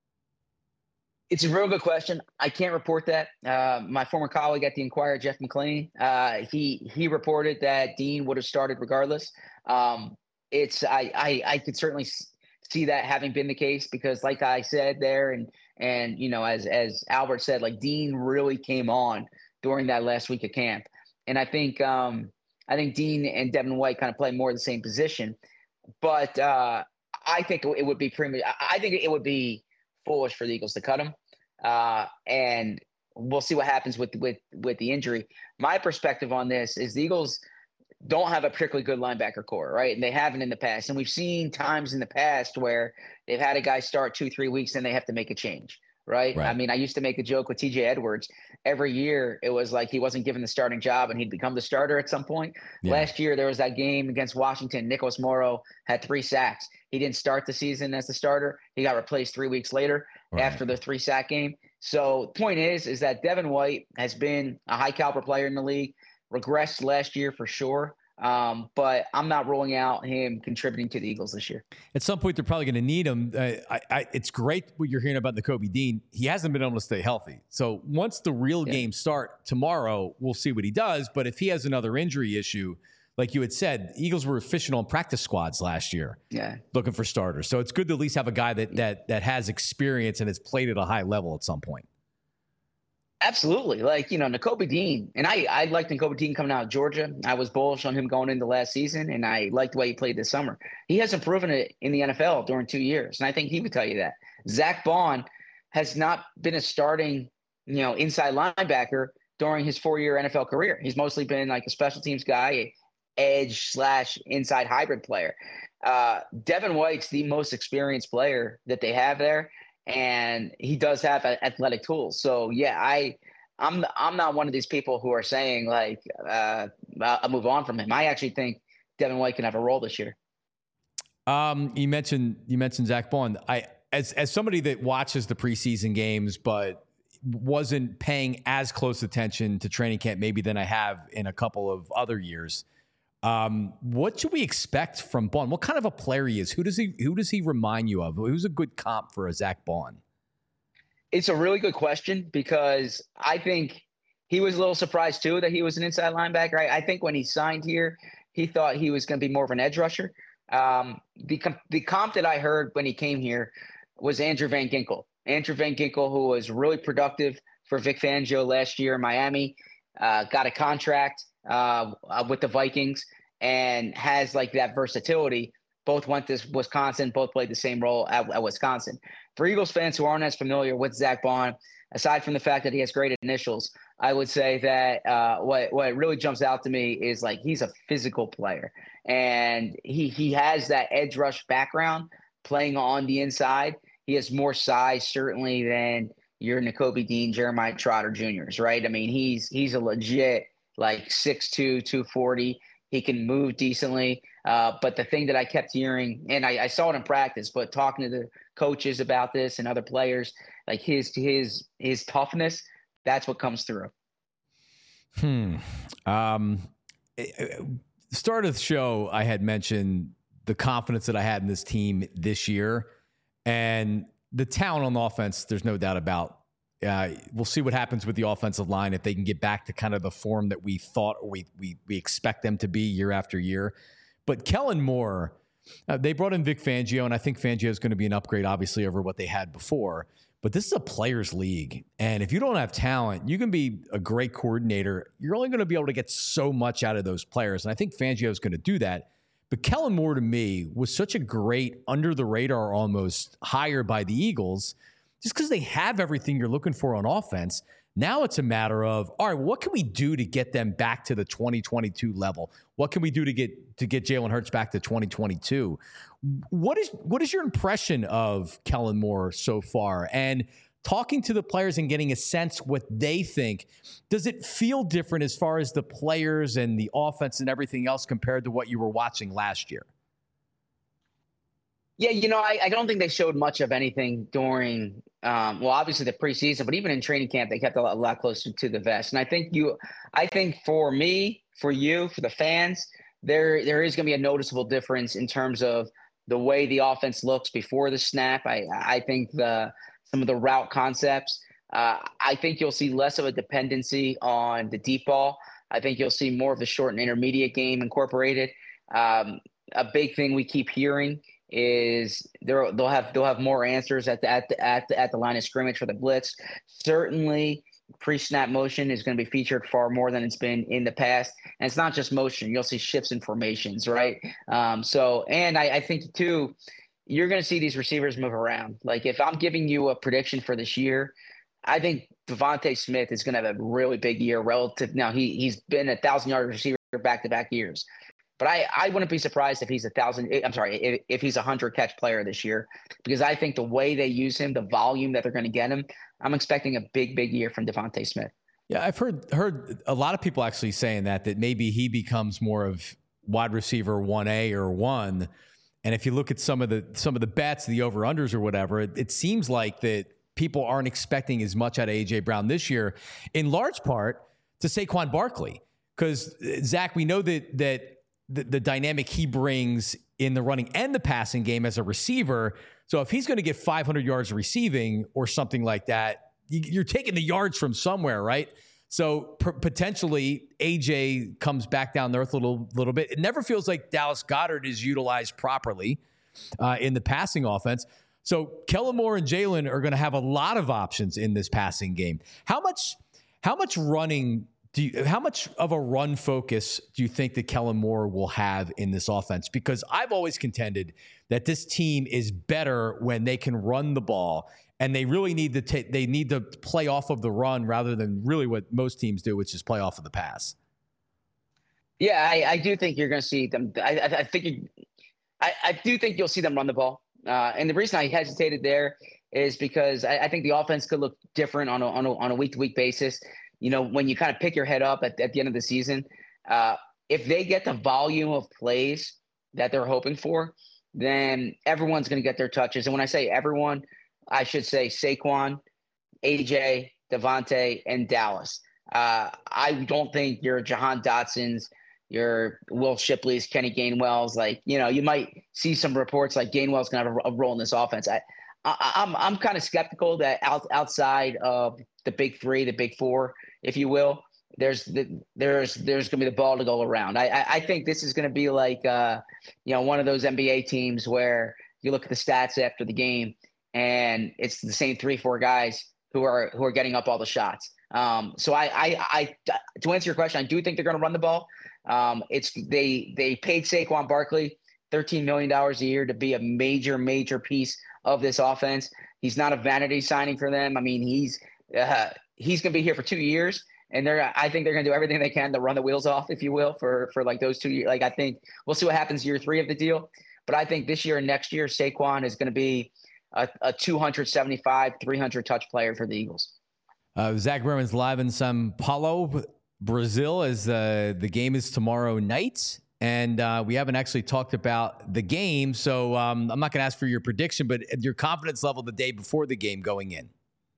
It's a real good question. I can't report that. Uh, my former colleague at the Inquirer, Jeff McLean, uh, he he reported that Dean would have started regardless. Um, it's I, I I could certainly see that having been the case because, like I said there, and and you know, as as Albert said, like Dean really came on during that last week of camp, and I think um, I think Dean and Devin White kind of play more the same position, but uh, I think it would be premature. I think it would be foolish for the Eagles to cut him. Uh, and we'll see what happens with, with, with the injury. My perspective on this is the Eagles don't have a particularly good linebacker core, right? And they haven't in the past. And we've seen times in the past where they've had a guy start two, three weeks and they have to make a change, right? right? I mean, I used to make a joke with T J Edwards. Every year it was like he wasn't given the starting job and he'd become the starter at some point. Yeah. Last year there was that game against Washington. Nicholas Morrow had three sacks. He didn't start the season as the starter. He got replaced three weeks later right. after the three sack game. So point is, is that Devin White has been a high caliber player in the league, regressed last year for sure. Um, but I'm not ruling out him contributing to the Eagles this year. At some point, they're probably going to need him. Uh, I, I, it's great what you're hearing about Nakobe Dean. He hasn't been able to stay healthy. So once the real yeah. games start tomorrow, we'll see what he does. But if he has another injury issue, like you had said, Eagles were efficient on practice squads last year, yeah, looking for starters. So it's good to at least have a guy that that that has experience and has played at a high level at some point. Absolutely. Like, you know, Nakobe Dean, and I, I liked Nakobe Dean coming out of Georgia. I was bullish on him going into last season, and I liked the way he played this summer. He hasn't proven it in the N F L during two years, and I think he would tell you that. Zach Bond has not been a starting, you know, inside linebacker during his four-year N F L career. He's mostly been like a special teams guy, edge slash inside hybrid player. Uh, Devin White's the most experienced player that they have there. And he does have athletic tools. So yeah, I, I'm I'm not one of these people who are saying like uh, I'll move on from him. I actually think Devin White can have a role this year. Um, you mentioned you mentioned Zach Bond. I as as somebody that watches the preseason games, but wasn't paying as close attention to training camp maybe than I have in a couple of other years. Um, what should we expect from Bond? What kind of a player he is? Who does he who does he remind you of? Who's a good comp for a Zach Bond? It's a really good question because I think he was a little surprised too that he was an inside linebacker. I, I think when he signed here, he thought he was going to be more of an edge rusher. Um, the the comp that I heard when he came here was Andrew Van Ginkel. Andrew Van Ginkel, who was really productive for Vic Fangio last year in Miami, uh, got a contract uh, with the Vikings and has like that versatility. Both went to Wisconsin, both played the same role at, at Wisconsin. For Eagles fans who aren't as familiar with Zach Bond, aside from the fact that he has great initials, I would say that uh, what what really jumps out to me is like he's a physical player, and he he has that edge rush background playing on the inside. He has more size certainly than your Nakobe Dean, Jeremiah Trotter Juniors, right? I mean, he's he's a legit like six two, two forty. He can move decently. Uh, but the thing that I kept hearing, and I, I saw it in practice, but talking to the coaches about this and other players, like his his his toughness, that's what comes through. Hmm. Um, start of the show, I had mentioned the confidence that I had in this team this year. And the talent on the offense, there's no doubt about. Uh, we'll see what happens with the offensive line if they can get back to kind of the form that we thought or we we we expect them to be year after year. But Kellen Moore, uh, they brought in Vic Fangio, and I think Fangio is going to be an upgrade, obviously, over what they had before. But this is a players' league, and if you don't have talent, you can be a great coordinator. You're only going to be able to get so much out of those players, and I think Fangio is going to do that. But Kellen Moore, to me, was such a great under-the-radar almost hire by the Eagles just because they have everything you're looking for on offense. Now it's a matter of, all right, what can we do to get them back to the twenty twenty-two level? What can we do to get to get Jalen Hurts back to twenty twenty-two? What is what is your impression of Kellen Moore so far? And talking to the players and getting a sense what they think, does it feel different as far as the players and the offense and everything else compared to what you were watching last year? Yeah, you know, I, I don't think they showed much of anything during, um, well, obviously the preseason, but even in training camp, they kept a lot, a lot closer to the vest. And I think you, I think for me, for you, for the fans, there there is going to be a noticeable difference in terms of the way the offense looks before the snap. I I think the some of the route concepts, uh, I think you'll see less of a dependency on the deep ball. I think you'll see more of the short and intermediate game incorporated. Um, a big thing we keep hearing is they'll they'll have they'll have more answers at the at the at the, at the line of scrimmage for the blitz. Certainly, pre-snap motion is going to be featured far more than it's been in the past, and it's not just motion. You'll see shifts in formations, right? Um, so, and I, I think too, you're going to see these receivers move around. Like if I'm giving you a prediction for this year, I think Devontae Smith is going to have a really big year relative. Now he he's been a thousand yard receiver back to back years. But I, I wouldn't be surprised if he's a thousand. I'm sorry, if, if he's a hundred catch player this year, because I think the way they use him, the volume that they're going to get him, I'm expecting a big, big year from Devontae Smith. Yeah, I've heard heard a lot of people actually saying that that maybe he becomes more of wide receiver one A or one. And if you look at some of the some of the bets, the over unders or whatever, it, it seems like that people aren't expecting as much out of A J Brown this year, in large part to Saquon Barkley, because Zach, we know that that. The, the dynamic he brings in the running and the passing game as a receiver. So if he's going to get five hundred yards receiving or something like that, you, you're taking the yards from somewhere, right? So p- potentially A J comes back down to earth a little, little bit. It never feels like Dallas Goedert is utilized properly uh, in the passing offense. So Kellen Moore and Jalen are going to have a lot of options in this passing game. How much How much running do you, how much of a run focus do you think that Kellen Moore will have in this offense? Because I've always contended that this team is better when they can run the ball, and they really need to take, they need to play off of the run rather than really what most teams do, which is play off of the pass. Yeah, I, I do think you're going to see them. I, I, I think you, I, I do think you'll see them run the ball. Uh, and the reason I hesitated there is because I, I think the offense could look different on a, on a, on a week-to-week basis. You know, when you kind of pick your head up at, at the end of the season, uh, if they get the volume of plays that they're hoping for, then everyone's going to get their touches. And when I say everyone, I should say Saquon, A J, Devontae, and Dallas. Uh, I don't think your Jahan Dotsons, your Will Shipley's, Kenny Gainwell's, like, you know, you might see some reports like Gainwell's going to have a, a role in this offense. I, I, I'm I'm kind of skeptical that out, outside of the big three, the big four, if you will, there's the, there's there's going to be the ball to go around. I I, I think this is going to be like uh, you know, one of those N B A teams where you look at the stats after the game and it's the same three four guys who are who are getting up all the shots. Um, so I, I I to answer your question, I do think they're going to run the ball. Um, it's they they paid Saquon Barkley thirteen million dollars a year to be a major major piece of this offense. He's not a vanity signing for them. I mean, he's uh, he's going to be here for two years, and they're I think they're going to do everything they can to run the wheels off, if you will, for for like those two years. Like I think we'll see what happens year three of the deal, but I think this year and next year Saquon is going to be a, a two seventy-five, three hundred touch player for the Eagles. Uh, Zach Berman's live in São Paulo, Brazil, as uh, the game is tomorrow night. And uh, we haven't actually talked about the game, so um, I'm not going to ask for your prediction, but your confidence level the day before the game going in.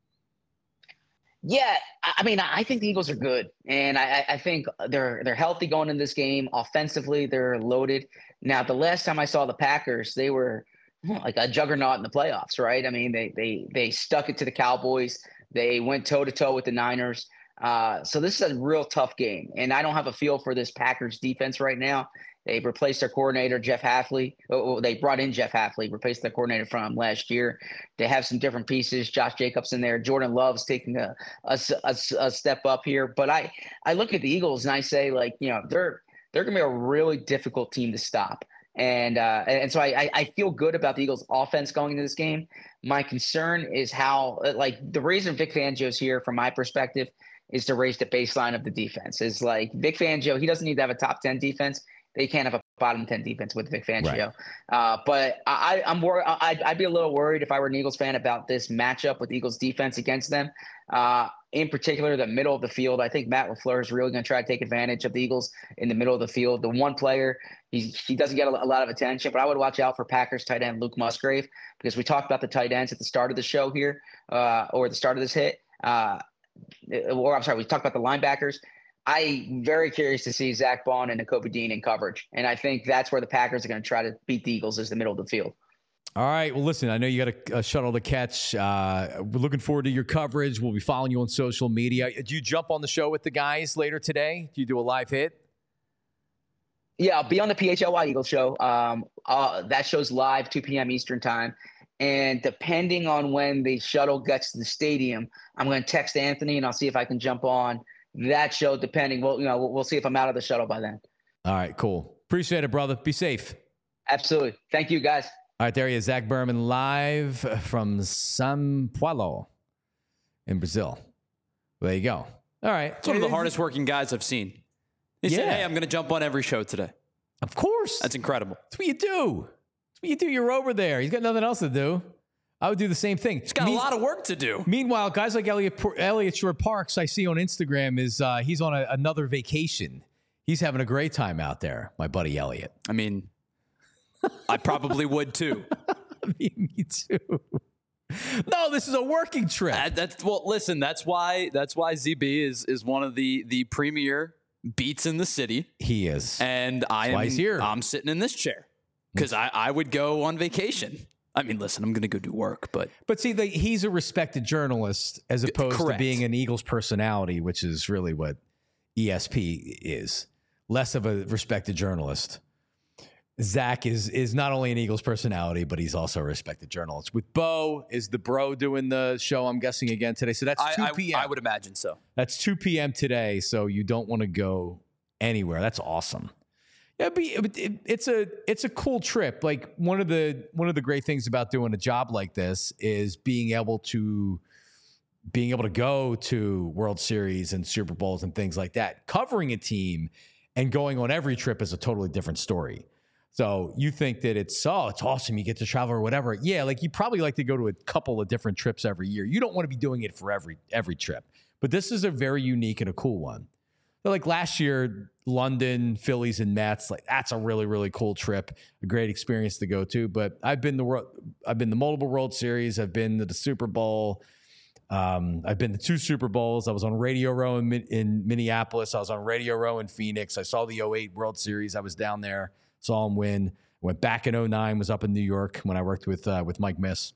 Yeah, I mean, I think the Eagles are good, and I, I think they're they're healthy going in this game. Offensively, they're loaded. Now, the last time I saw the Packers, they were like a juggernaut in the playoffs, right? I mean, they they they stuck it to the Cowboys. They went toe to toe with the Niners. Uh, so this is a real tough game, and I don't have a feel for this Packers defense right now. They replaced their coordinator, Jeff Hafley. Oh, they brought in Jeff Hafley, replaced their coordinator from last year. They have some different pieces. Josh Jacobs in there. Jordan Love's taking a, a, a, a step up here. But I, I look at the Eagles and I say, like, you know, they're they're going to be a really difficult team to stop. And uh, and so I, I feel good about the Eagles' offense going into this game. My concern is how, like, the reason Vic Fangio's here, from my perspective, is to raise the baseline of the defense. Is like Vic Fangio, he doesn't need to have a top ten defense. They can't have a bottom ten defense with Vic Fangio. Right. Uh, but I, I'm worried. I'd, I'd be a little worried if I were an Eagles fan about this matchup with the Eagles defense against them. Uh, in particular, the middle of the field. I think Matt LaFleur is really going to try to take advantage of the Eagles in the middle of the field. The one player, he, he doesn't get a, a lot of attention, but I would watch out for Packers tight end Luke Musgrave, because we talked about the tight ends at the start of the show here, uh, or the start of this hit. Uh, or I'm sorry, we talked about the linebackers. I'm very curious to see Zach Bond and Nakobe Dean in coverage. And I think that's where the Packers are going to try to beat the Eagles, is the middle of the field. All right. Well, listen, I know you got a, a shuttle to catch. Uh, we're looking forward to your coverage. We'll be following you on social media. Do you jump on the show with the guys later today? Do you do a live hit? Yeah, I'll be on the P H L Y Eagles show. Um, uh, that show's live, two p.m. Eastern time. And depending on when the shuttle gets to the stadium, I'm going to text Anthony and I'll see if I can jump on that show, depending. Well, you know, we'll, we'll see if I'm out of the shuttle by then. All right, cool. Appreciate it, brother. Be safe. Absolutely. Thank you, guys. All right, there he is, Zach Berman, live from São Paulo in Brazil. There you go. All right. It's one of the hardest working guys I've seen. He yeah. said, hey, I'm going to jump on every show today. Of course. That's incredible. That's what you do. That's what you do. You're over there. He's got nothing else to do. I would do the same thing. He's got Me- a lot of work to do. Meanwhile, guys like Elliot Elliot Shore Parks, I see on Instagram, is uh, he's on a, another vacation. He's having a great time out there, my buddy Elliot. I mean, I probably would too. I mean, me too. No, this is a working trip. Uh, that's well. Listen, that's why. That's why Z B is is one of the the premier beats in the city. He is, and I am. He's here. I'm sitting in this chair because I I would go on vacation. I mean, listen, I'm going to go do work, but... But see, the, he's a respected journalist as opposed correct. to being an Eagles personality, which is really what E S P is. Less of a respected journalist. Zach is is not only an Eagles personality, but he's also a respected journalist. With Bo, is the bro doing the show, I'm guessing, again today? So that's two p.m. I, I would imagine so. That's two p.m. today, so you don't want to go anywhere. That's awesome. Yeah, it'd be, it, it, it's a it's a cool trip. Like one of the one of the great things about doing a job like this is being able to being able to go to World Series and Super Bowls and things like that. Covering a team and going on every trip is a totally different story. So you think that it's, oh, it's awesome, you get to travel or whatever. Yeah, like you probably like to go to a couple of different trips every year. You don't want to be doing it for every every trip. But this is a very unique and a cool one. So like last year, London, Phillies, and Mets, like that's a really, really cool trip, a great experience to go to. But I've been the I've been the multiple World Series, I've been to the Super Bowl. Um, I've been to two Super Bowls. I was on Radio Row in, in Minneapolis. I was on Radio Row in Phoenix. I saw the oh eight World Series. I was down there. Saw him win. Went back in oh nine, was up in New York when I worked with uh, with Mike Miss.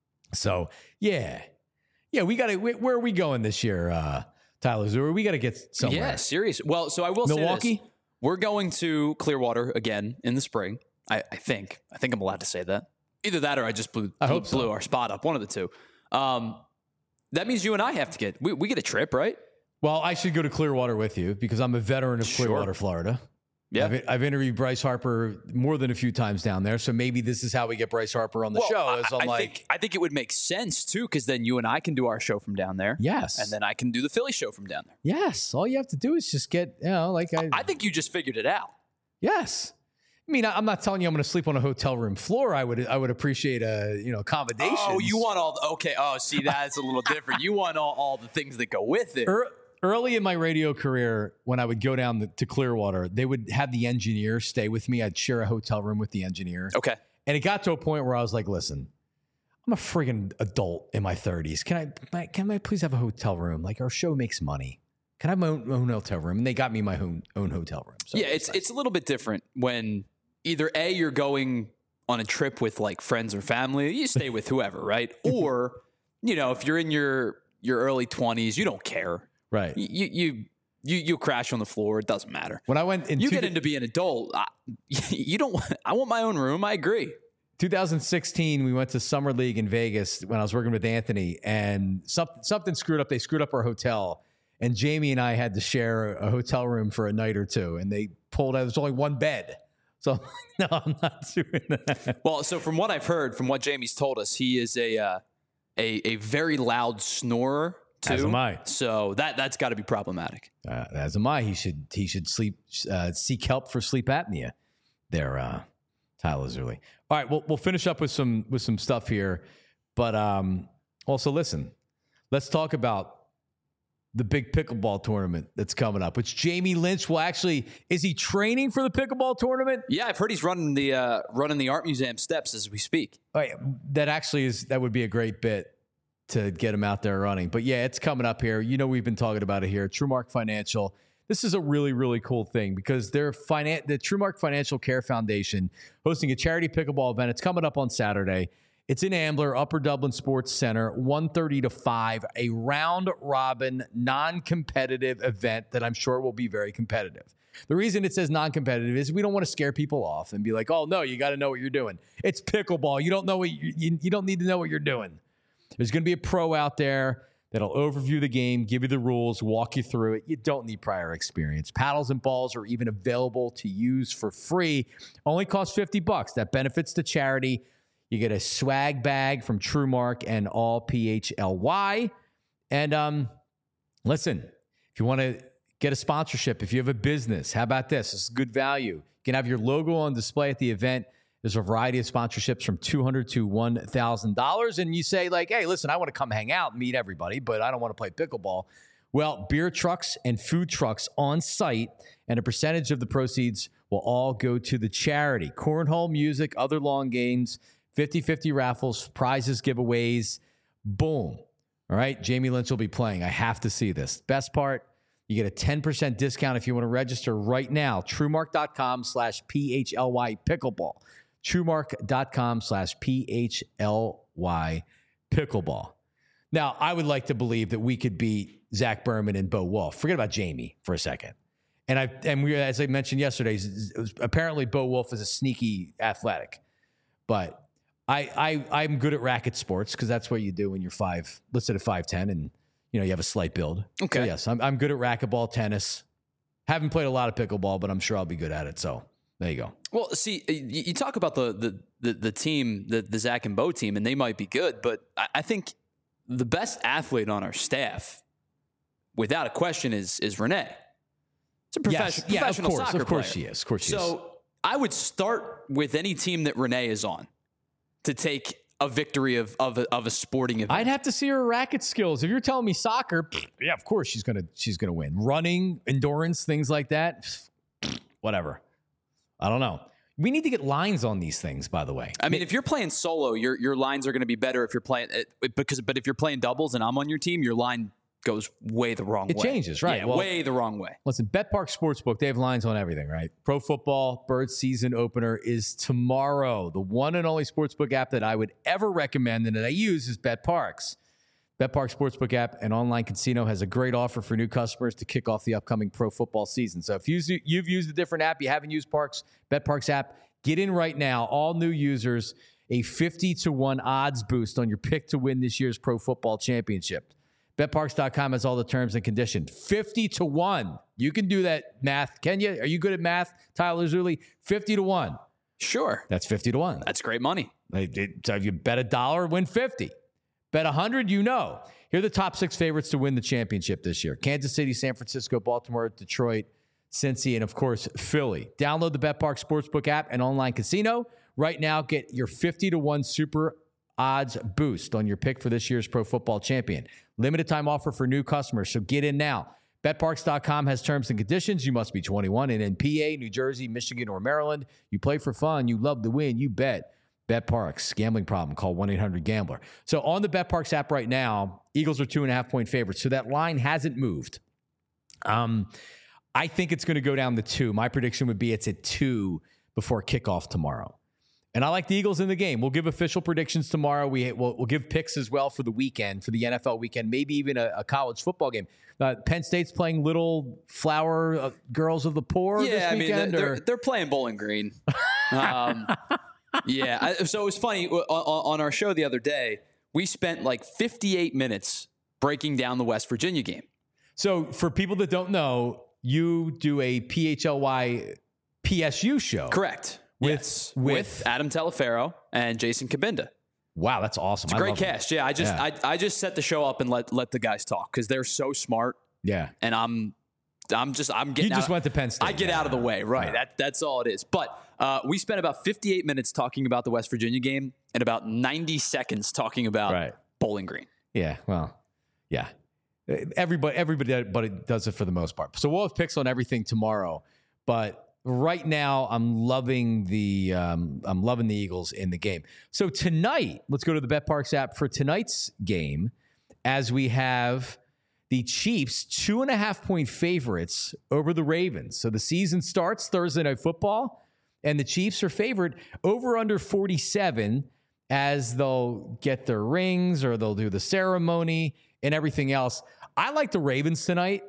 So, yeah. Yeah, we got to – where are we going this year, uh, Tyler Zeurer? We got to get somewhere. Yeah, serious. Well, so I will Milwaukee? say this. We're going to Clearwater again in the spring, I, I think. I think I'm allowed to say that. Either that or I just blew, I blew, hope so. blew our spot up, one of the two. Um, that means you and I have to get – we we get a trip, right? Well, I should go to Clearwater with you because I'm a veteran of Sure. Clearwater, Florida. Yeah. I've, I've interviewed Bryce Harper more than a few times down there, so maybe this is how we get Bryce Harper on the Well, show. Is I, I'm I like, think, I think it would make sense, too, because then you and I can do our show from down there. yes. And then I can do the Philly show from down there. yes. All you have to do is just get, you know, like I, I think you just figured it out. yes. I mean, I, I'm not telling you I'm going to sleep on a hotel room floor. I would, I would appreciate a, you know, accommodations. Oh, you want all the, okay. Oh, see, that's a little different. You want all, all the things that go with it. Er, Early in my radio career, when I would go down the, to Clearwater, they would have the engineer stay with me. I'd share a hotel room with the engineer. Okay. And it got to a point where I was like, listen, I'm a friggin' adult in my thirties. Can I, can I please have a hotel room? Like, our show makes money. Can I have my own, own hotel room? And they got me my own, own hotel room. So Yeah, it's it's a little bit different when either A, you're going on a trip with like friends or family, you stay with whoever, right? Or, you know, if you're in your your early twenties, you don't care. right. You you you you crash on the floor, it doesn't matter. When I went in You two- get into being an adult, I, you don't want, I want my own room, I agree. two thousand sixteen, we went to Summer League in Vegas when I was working with Anthony, and something something screwed up. They screwed up our hotel, and Jamie and I had to share a hotel room for a night or two, and they pulled out. There's only one bed. So, no, I'm not doing that. Well, so from what I've heard, from what Jamie's told us, he is a uh, a a very loud snorer too. As am I. So that that's got to be problematic. Uh, as am I. He should he should sleep uh, seek help for sleep apnea. There, uh, Tyler Zeurer. All right, we'll we'll finish up with some with some stuff here, but um, also listen. Let's talk about the big pickleball tournament that's coming up, which Jamie Lynch will actually, is he training for the pickleball tournament? Yeah, I've heard he's running the uh, running the art museum steps as we speak. Oh, yeah, that actually is, that would be a great bit to get him out there running. But yeah, it's coming up here. You know, we've been talking about it here. TrueMark Financial. This is a really, really cool thing because they're finan- the TrueMark Financial Care Foundation hosting a charity pickleball event. It's coming up on Saturday. It's in Ambler, Upper Dublin Sports Center, one thirty to five, a round-robin, non-competitive event that I'm sure will be very competitive. The reason it says non-competitive is we don't want to scare people off and be like, oh, no, you got to know what you're doing. It's pickleball. You don't know what you, you, you don't need to know what you're doing. There's going to be a pro out there that'll overview the game, give you the rules, walk you through it. You don't need prior experience. Paddles and balls are even available to use for free. Only costs fifty bucks. That benefits the charity. You get a swag bag from TrueMark and all P H L Y. And um, listen, if you want to get a sponsorship, if you have a business, how about this? This is good value. You can have your logo on display at the event. There's a variety of sponsorships from two hundred dollars to one thousand dollars. And you say like, hey, listen, I want to come hang out and meet everybody, but I don't want to play pickleball. Well, beer trucks and food trucks on site, and a percentage of the proceeds will all go to the charity. Cornhole, music, other long games, fifty-fifty raffles, prizes, giveaways. Boom. All right. Jamie Lynch will be playing. I have to see this. Best part, you get a ten percent discount if you want to register right now. TrueMark.com slash PHLY pickleball. TrueMark.com slash PHLY pickleball. Now, I would like to believe that we could beat Zach Berman and Bo Wolf. Forget about Jamie for a second. And I and we, as I mentioned yesterday, apparently Bo Wolf is a sneaky athletic, but I I I'm good at racket sports because that's what you do when you're five, listed at five ten, and you know you have a slight build. Okay. So yes, I'm I'm good at racquetball, tennis. Haven't played a lot of pickleball, but I'm sure I'll be good at it. So there you go. Well, see, you, you talk about the the the, the team, the the Zach and Bo team, and they might be good, but I, I think the best athlete on our staff, without a question, is is Renee. It's a profession, yes. professional yeah, of course, soccer of course player. she is. Of course she so is. So I would start with any team that Renee is on to take a victory of of a, of a sporting event. I'd have to see her racket skills. If you're telling me soccer, yeah, of course she's gonna she's gonna win. Running, endurance, things like that, whatever. I don't know. We need to get lines on these things, by the way. I mean, if you're playing solo, your your lines are going to be better if you're playing because but if you're playing doubles and I'm on your team, your line goes way the wrong it way. It changes, right? Yeah, well, way the wrong way. Listen, BetPark Sportsbook, they have lines on everything, right? Pro football, Birds season opener is tomorrow. The one and only sportsbook app that I would ever recommend and that I use is BetParks. BetPark Sportsbook app and online casino has a great offer for new customers to kick off the upcoming pro football season. So if you've used a different app, you haven't used Parks, BetParks app, get in right now. All new users, a fifty to one odds boost on your pick to win this year's pro football championship. Bet Parks dot com has all the terms and conditions. fifty to one. You can do that math. Can you? Are you good at math, Tyler Zuli? fifty to one. Sure. That's fifty to one. That's great money. So if you bet a dollar, win fifty. Bet one hundred, you know. Here are the top six favorites to win the championship this year. Kansas City, San Francisco, Baltimore, Detroit, Cincy, and, of course, Philly. Download the BetPark Sportsbook app and online casino. Right now, get your fifty to one super odds boost on your pick for this year's pro football champion. Limited time offer for new customers, so get in now. Bet Parks dot com has terms and conditions. You must be twenty-one and in P A, New Jersey, Michigan, or Maryland. You play for fun. You love to win. You bet. BetParks. Gambling problem. Call one eight hundred gambler. So on the BetParks app right now, Eagles are two and a half point favorites. So that line hasn't moved. Um, I think it's going to go down to two. My prediction would be it's at two before kickoff tomorrow. And I like the Eagles in the game. We'll give official predictions tomorrow. We, we'll, we'll give picks as well for the weekend, for the N F L weekend, maybe even a, a college football game. Uh, Penn State's playing Little Flower uh, Girls of the Poor yeah, this I mean, weekend? they're, or? they're playing Bowling Green. Um, yeah, I, so it was funny. On, on our show the other day, we spent like fifty-eight minutes breaking down the West Virginia game. So for people that don't know, you do a P H L Y P S U show. Correct. With, yes. with, with Adam Teleferro and Jason Kabinda. Wow, that's awesome. It's a I great cast. It. Yeah, I just yeah. I, I just set the show up and let let the guys talk because they're so smart. Yeah, and I'm I'm just I'm getting. You just out, went to Penn State. I get yeah. out of the way, right? Yeah. That that's all it is. But uh, we spent about fifty-eight minutes talking about the West Virginia game and about ninety seconds talking about right. Bowling Green. Yeah, well, yeah. Everybody everybody does it for the most part. So we'll have picks on everything tomorrow, but. Right now, I'm loving the um, I'm loving the Eagles in the game. So tonight, let's go to the BetParks app for tonight's game, as we have the Chiefs two and a half point favorites over the Ravens. So the season starts Thursday Night Football, and the Chiefs are favored over under forty-seven, as they'll get their rings or they'll do the ceremony and everything else. I like the Ravens tonight.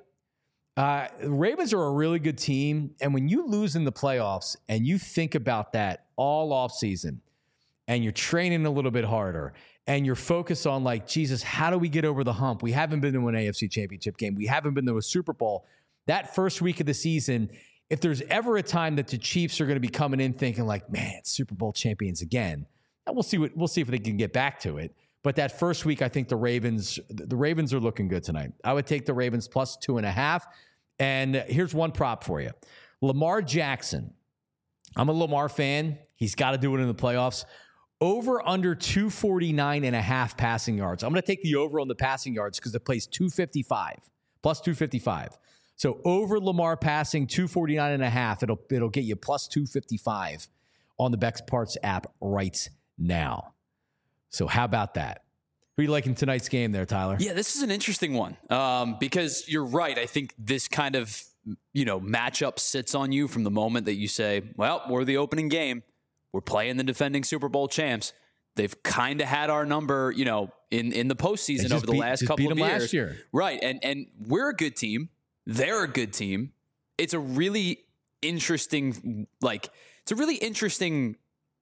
Uh, the Ravens are a really good team, and when you lose in the playoffs and you think about that all offseason and you're training a little bit harder and you're focused on like, Jesus, how do we get over the hump? We haven't been to an A F C championship game. We haven't been to a Super Bowl. That first week of the season, if there's ever a time that the Chiefs are going to be coming in thinking like, man, it's Super Bowl champions again, and we'll see what we'll see if they can get back to it. But that first week, I think the Ravens, the Ravens are looking good tonight. I would take the Ravens plus two and a half. And here's one prop for you. Lamar Jackson. I'm a Lamar fan. He's got to do it in the playoffs. Over under two forty-nine and a half passing yards. I'm going to take the over on the passing yards because it plays two fifty-five, plus two fifty-five. So over Lamar passing two forty-nine and a half, it'll, it'll get you plus two fifty-five on the BetParks app right now. So how about that? Who are you liking tonight's game there, Tyler? Yeah, this is an interesting one um, because you're right. I think this kind of, you know, matchup sits on you from the moment that you say, well, we're the opening game. We're playing the defending Super Bowl champs. They've kind of had our number, you know, in, in the postseason over the beat, last just couple beat of them years. Last year. Right. And, and we're a good team. They're a good team. it's a really interesting, like, it's a really interesting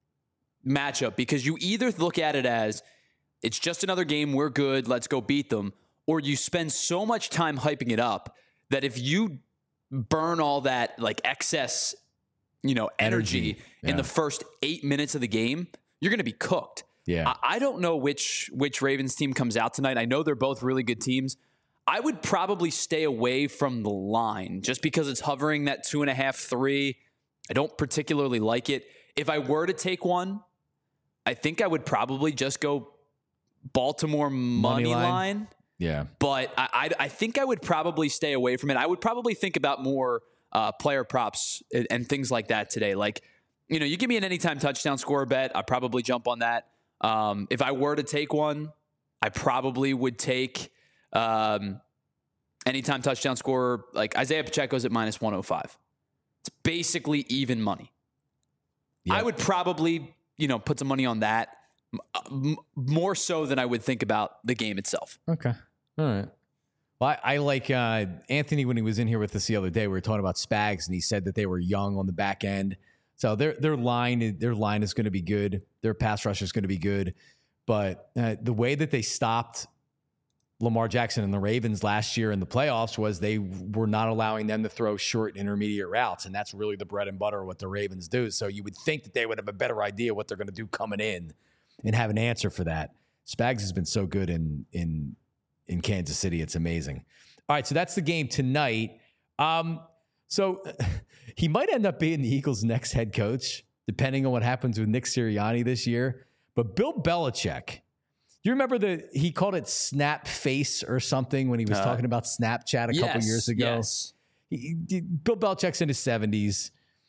matchup because you either look at it as it's just another game, we're good, let's go beat them, or you spend so much time hyping it up that if you burn all that like excess, you know, energy, energy. Yeah. in the first eight minutes of the game, you're going to be cooked. Yeah. I, I don't know which which Ravens team comes out tonight. I know they're both really good teams. I would probably stay away from the line just because it's hovering that two and a half, three. I don't particularly like it. If I were to take one, I think I would probably just go Baltimore money, money line. line. Yeah. But I, I, I think I would probably stay away from it. I would probably think about more uh, player props and, and things like that today. Like, you know, you give me an anytime touchdown score bet, I'd probably jump on that. Um, if I were to take one, I probably would take um, anytime touchdown scorer. Like Isaiah Pacheco's at minus one oh five. It's basically even money. Yep. I would probably, you know, put some money on that. M- more so than I would think about the game itself. Okay. All right. Well, I, I like uh, Anthony when he was in here with us the other day. We were talking about Spags, and he said that they were young on the back end. So their their line their line is going to be good. Their pass rush is going to be good. But uh, the way that they stopped Lamar Jackson and the Ravens last year in the playoffs was they were not allowing them to throw short intermediate routes, and that's really the bread and butter of what the Ravens do. So you would think that they would have a better idea what they're going to do coming in and have an answer for that. Spags has been so good in in in Kansas City. It's amazing. All right, so that's the game tonight. Um, so he might end up being the Eagles' next head coach, depending on what happens with Nick Sirianni this year. But Bill Belichick, you remember the he called it snap face or something when he was uh, talking about Snapchat a yes, couple years ago? Yes. He, he, Bill Belichick's in his seventies.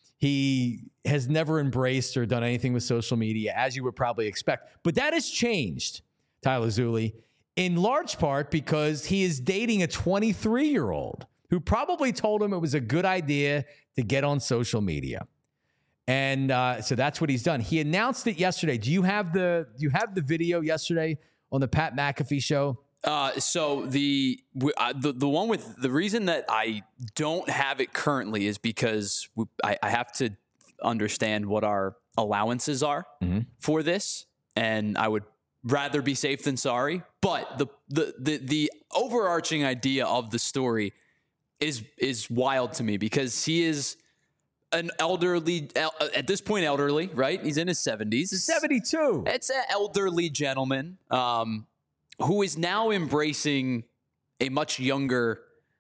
He has never embraced or done anything with social media, as you would probably expect. But that has changed, Tyler Zulli, in large part because he is dating a twenty-three-year-old who probably told him it was a good idea to get on social media. And uh, so that's what he's done. He announced it yesterday. Do you have the do you have the video yesterday on the Pat McAfee show? Uh, so the, uh, the the one with the reason that I don't have it currently is because we, I, I have to understand what our allowances are mm-hmm. for this, and I would rather be safe than sorry. But the the the the overarching idea of the story is is wild to me because he is an elderly, at this point elderly, right? He's in his seventies. seventy-two. It's an elderly gentleman. Um, who is now embracing a much younger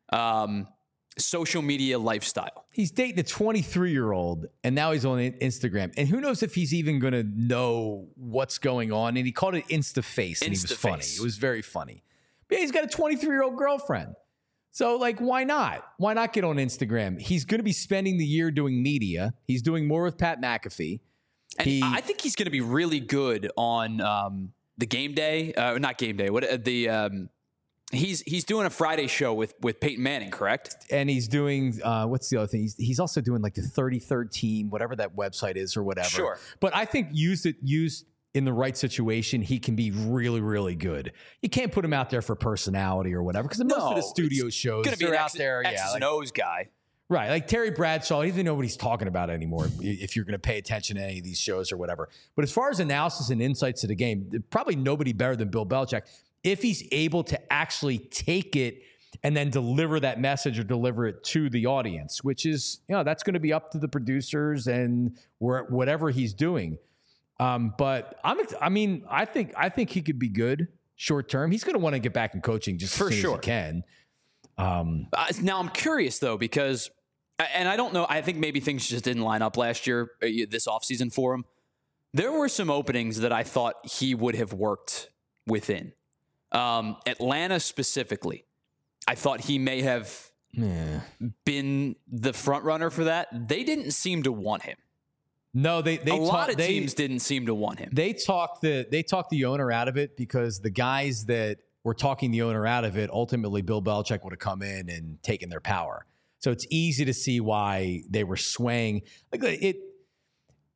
um, social media lifestyle. He's dating a twenty-three-year-old, and now he's on Instagram. And who knows if he's even going to know what's going on. And he called it Instaface, and he was funny. It was very funny. But yeah, he's got a twenty-three-year-old girlfriend. So, like, why not? Why not get on Instagram? He's going to be spending the year doing media. He's doing more with Pat McAfee. And he, I think he's going to be really good on um, – the game day, uh, not game day. What uh, the um, he's he's doing a Friday show with with Peyton Manning, correct? And he's doing uh, what's the other thing? He's he's also doing like the thirty-third team, whatever that website is or whatever. Sure. But I think used it used in the right situation, he can be really really good. You can't put him out there for personality or whatever because most no, of the studio shows gonna be they're an out X, there. X yeah, and like, O's guy. Right, like Terry Bradshaw, he doesn't know what he's talking about anymore if you're going to pay attention to any of these shows or whatever. But as far as analysis and insights to the game, probably nobody better than Bill Belichick if he's able to actually take it and then deliver that message or deliver it to the audience, which is, you know, that's going to be up to the producers and whatever he's doing. Um, but I'm, I mean, I think I think he could be good short term. He's going to want to get back in coaching just for as soon sure. as he can. Um, uh, now I'm curious though, because, and I don't know, I think maybe things just didn't line up last year, uh, this offseason for him. There were some openings that I thought he would have worked within. Um, Atlanta specifically, I thought he may have yeah. been the front runner for that. They didn't seem to want him. No, they, they a talk, lot of they, teams didn't seem to want him. They talked the they talked the owner out of it because the guys that were talking the owner out of it, ultimately Bill Belichick would have come in and taken their power. So it's easy to see why they were swaying. Like it,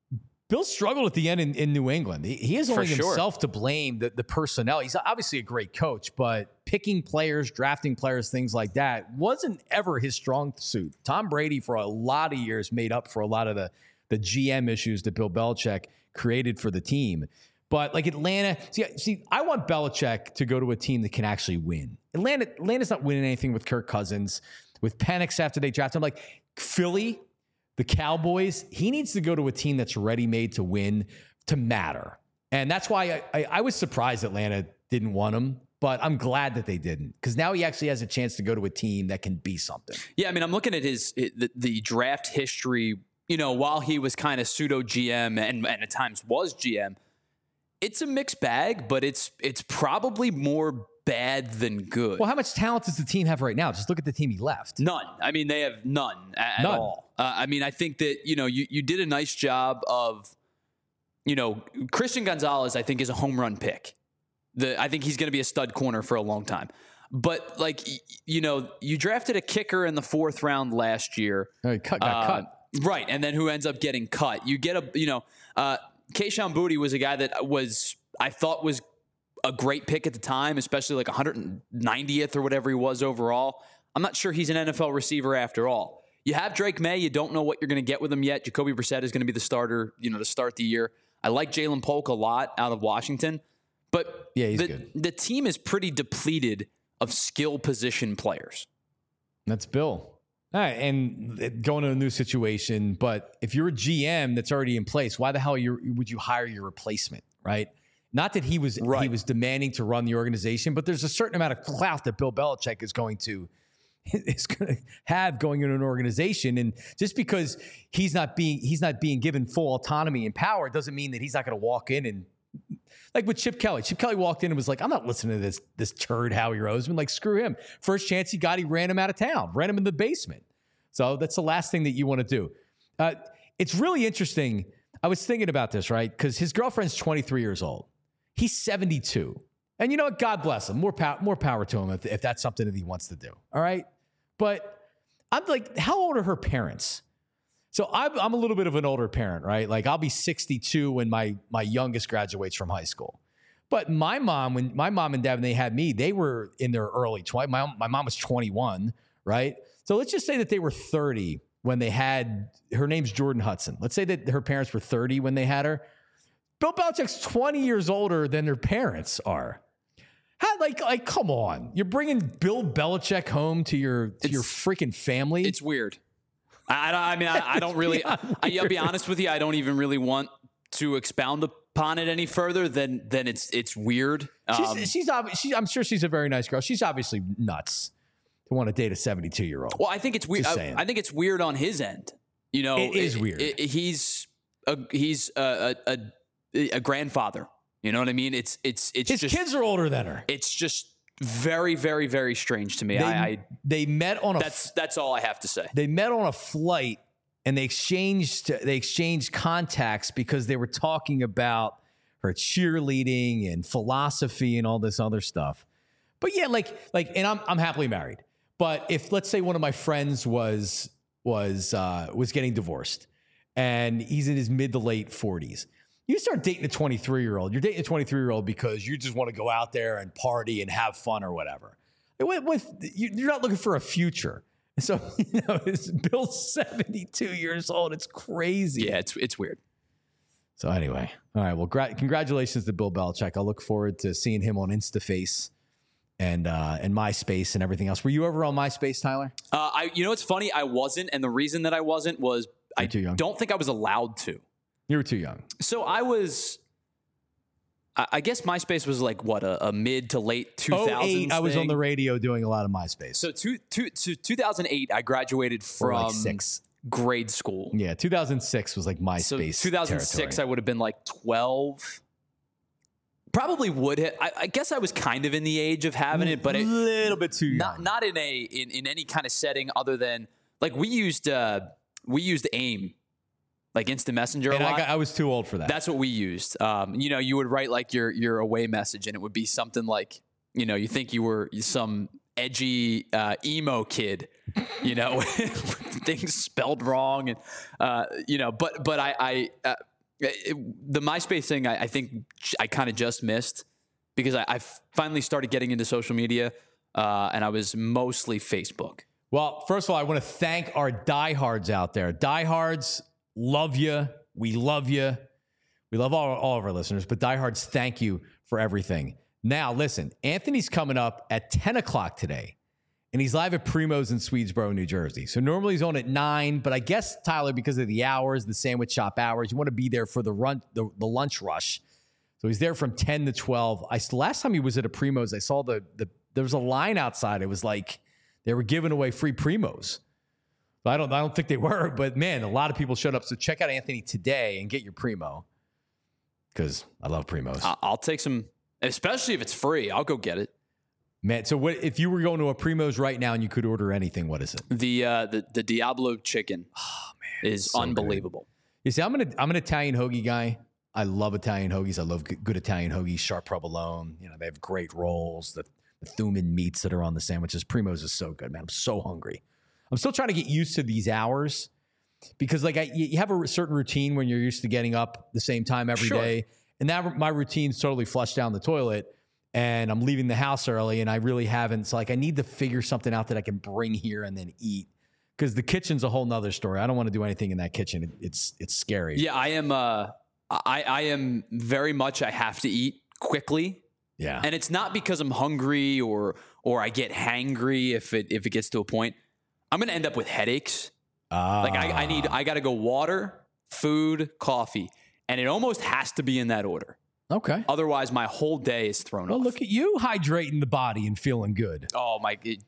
Bill struggled at the end in, in New England. He, he has only For sure. himself to blame, the, the personnel. He's obviously a great coach, but picking players, drafting players, things like that wasn't ever his strong suit. Tom Brady, for a lot of years, made up for a lot of the, the G M issues that Bill Belichick created for the team. But like Atlanta, see, see, I want Belichick to go to a team that can actually win. Atlanta, Atlanta's not winning anything with Kirk Cousins, with Penix after they draft him. Like Philly, the Cowboys, he needs to go to a team that's ready-made to win, to matter. And that's why I, I, I was surprised Atlanta didn't want him, but I'm glad that they didn't, because now he actually has a chance to go to a team that can be something. Yeah, I mean, I'm looking at his the, the draft history, you know, while he was kind of pseudo G M and, and at times was G M. It's a mixed bag, but it's it's probably more bad than good. Well, how much talent does the team have right now? Just look at the team he left. None. I mean, they have none at, None. at all. Uh, I mean, I think that, you know, you, you did a nice job of, you know, Christian Gonzalez, I think, is a home run pick. The I think he's going to be a stud corner for a long time. But, like, y- you know, you drafted a kicker in the fourth round last year. Oh, he cut, got Uh, cut. Right, and then who ends up getting cut. You get a, you know, uh, Kayshon Boutte was a guy that was, I thought was a great pick at the time, especially like one hundred ninetieth or whatever he was overall. I'm not sure he's an N F L receiver after all. You have Drake May. You don't know what you're going to get with him yet. Jacoby Brissett is going to be the starter, you know, to start the year. I like Jalen Polk a lot out of Washington, but Yeah, he's the, good. the team is pretty depleted of skill position players. That's Bill. All right, and going to a new situation, but if you're a G M that's already in place, why the hell you would you hire your replacement, right? Not that he was Right. he was demanding to run the organization, but there's a certain amount of clout that Bill Belichick is going to is going to have going into an organization, and just because he's not being he's not being given full autonomy and power doesn't mean that he's not going to walk in and, like with Chip Kelly. Chip Kelly walked in and was like, I'm not listening to this this turd Howie Roseman. Like, screw him. First chance he got, he ran him out of town, ran him in the basement. So that's the last thing that you want to do. Uh, it's really interesting. I was thinking about this, right? Because his girlfriend's twenty-three years old. He's seventy-two. And you know what? God bless him. More, pow- more power to him if, if that's something that he wants to do. All right? But I'm like, how old are her parents? So I'm, I'm a little bit of an older parent, right? Like I'll be sixty-two when my my youngest graduates from high school. But my mom, when my mom and dad, when they had me, they were in their early twenties. My, my mom was twenty-one, right? So let's just say that they were thirty when they had, her name's Jordan Hudson. Let's say that her parents were thirty when they had her. Bill Belichick's twenty years older than their parents are. How, like, like, come on. You're bringing Bill Belichick home to your, to your freaking family? It's weird. I, I, I mean, I, I don't really, I, I'll be honest with you. I don't even really want to expound upon it any further than, than it's, it's weird. Um, She's, she's, obvi- she, I'm sure she's a very nice girl. She's obviously nuts to want to date a seventy-two year old. well, I think it's weird. Just I, saying. I think it's weird on his end. You know, It is weird. it- he's a, he's a, a, a, a grandfather. You know what I mean? It's, it's, it's His just, kids are older than her. it's just very, very, very strange to me. They, I, I they met on a that's, that's all I have to say. they met on a flight and they exchanged they exchanged contacts because they were talking about her cheerleading and philosophy and all this other stuff. But yeah, like like and I'm I'm happily married. But if let's say one of my friends was was uh, was getting divorced and he's in his mid to late forties, you start dating a twenty-three year old. You're dating a twenty-three year old because you just want to go out there and party and have fun or whatever. With, with you're not looking for a future. So, you know, it's Bill's seventy-two years old. It's crazy. Yeah, it's, it's weird. So anyway, all right. Well, gra- congratulations to Bill Belichick. I look forward to seeing him on InstaFace and uh, and MySpace and everything else. Were you ever on MySpace, Tyler? Uh, I, you know, it's funny. I wasn't. And the reason that I wasn't was I too young. don't think I was allowed to. You were too young. So I was, I, I guess MySpace was like what, a, a mid to late two thousands oh eight, I was thing. on the radio doing a lot of MySpace. So two, two, to two thousand eight, I graduated Or from like six. grade school. Yeah, two thousand six was like So MySpace. two thousand six, I would have been like twelve. Probably would have. I, I guess I was kind of in the age of having it, but a it, little bit too young. not not in a in, in any kind of setting other than like we used uh we used AIM, like Instant Messenger. and a lot. I, got, I was too old for that. That's what we used. Um, you know, you would write like your your away message, and it would be something like, you know, you think you were some edgy uh, emo kid, you know, things spelled wrong, and uh, you know, but but I I uh, It, the MySpace thing, I, I think I kind of just missed because I, I finally started getting into social media, uh, and I was mostly Facebook. Well, first of all, I want to thank our diehards out there. Diehards, love you. We love you. We love all, all of our listeners, but diehards, thank you for everything. Now, listen, Anthony's coming up at ten o'clock today, and he's live at Primo's in Swedesboro, New Jersey. So normally he's on at nine, but I guess, Tyler, because of the hours, the sandwich shop hours, you want to be there for the run, the, the lunch rush. So he's there from ten to twelve. I Last time he was at a Primo's, I saw the, the there was a line outside. It was like they were giving away free Primos. But I don't, I don't think they were, but man, a lot of people showed up. So check out Anthony today and get your Primo because I love Primos. I'll take some, especially if it's free. I'll go get it. Man, so what if you were going to a Primo's right now and you could order anything? What is it? The uh, the the Diablo chicken oh, man, is so unbelievable. Good. You see, I'm an I'm an Italian hoagie guy. I love Italian hoagies. I love good, good Italian hoagies. Sharp provolone. You know, they have great rolls. The, the Thuman meats that are on the sandwiches. Primo's is so good, man. I'm so hungry. I'm still trying to get used to these hours because, like, I, you have a certain routine when you're used to getting up the same time every sure. day, and that my routine's totally flushed down the toilet. And I'm leaving the house early, and I really haven't. So, like, I need to figure something out that I can bring here and then eat. Because the kitchen's a whole nother story. I don't want to do anything in that kitchen. It, it's it's scary. Yeah, I am. Uh, I I am very much. I have to eat quickly. Yeah, and it's not because I'm hungry or or I get hangry. If it if it gets to a point, I'm going to end up with headaches. Uh, like I, I need. I got to go water, food, coffee, and it almost has to be in that order. Okay. Otherwise, my whole day is thrown well, off. Look at you hydrating the body and feeling good. Oh, my. It,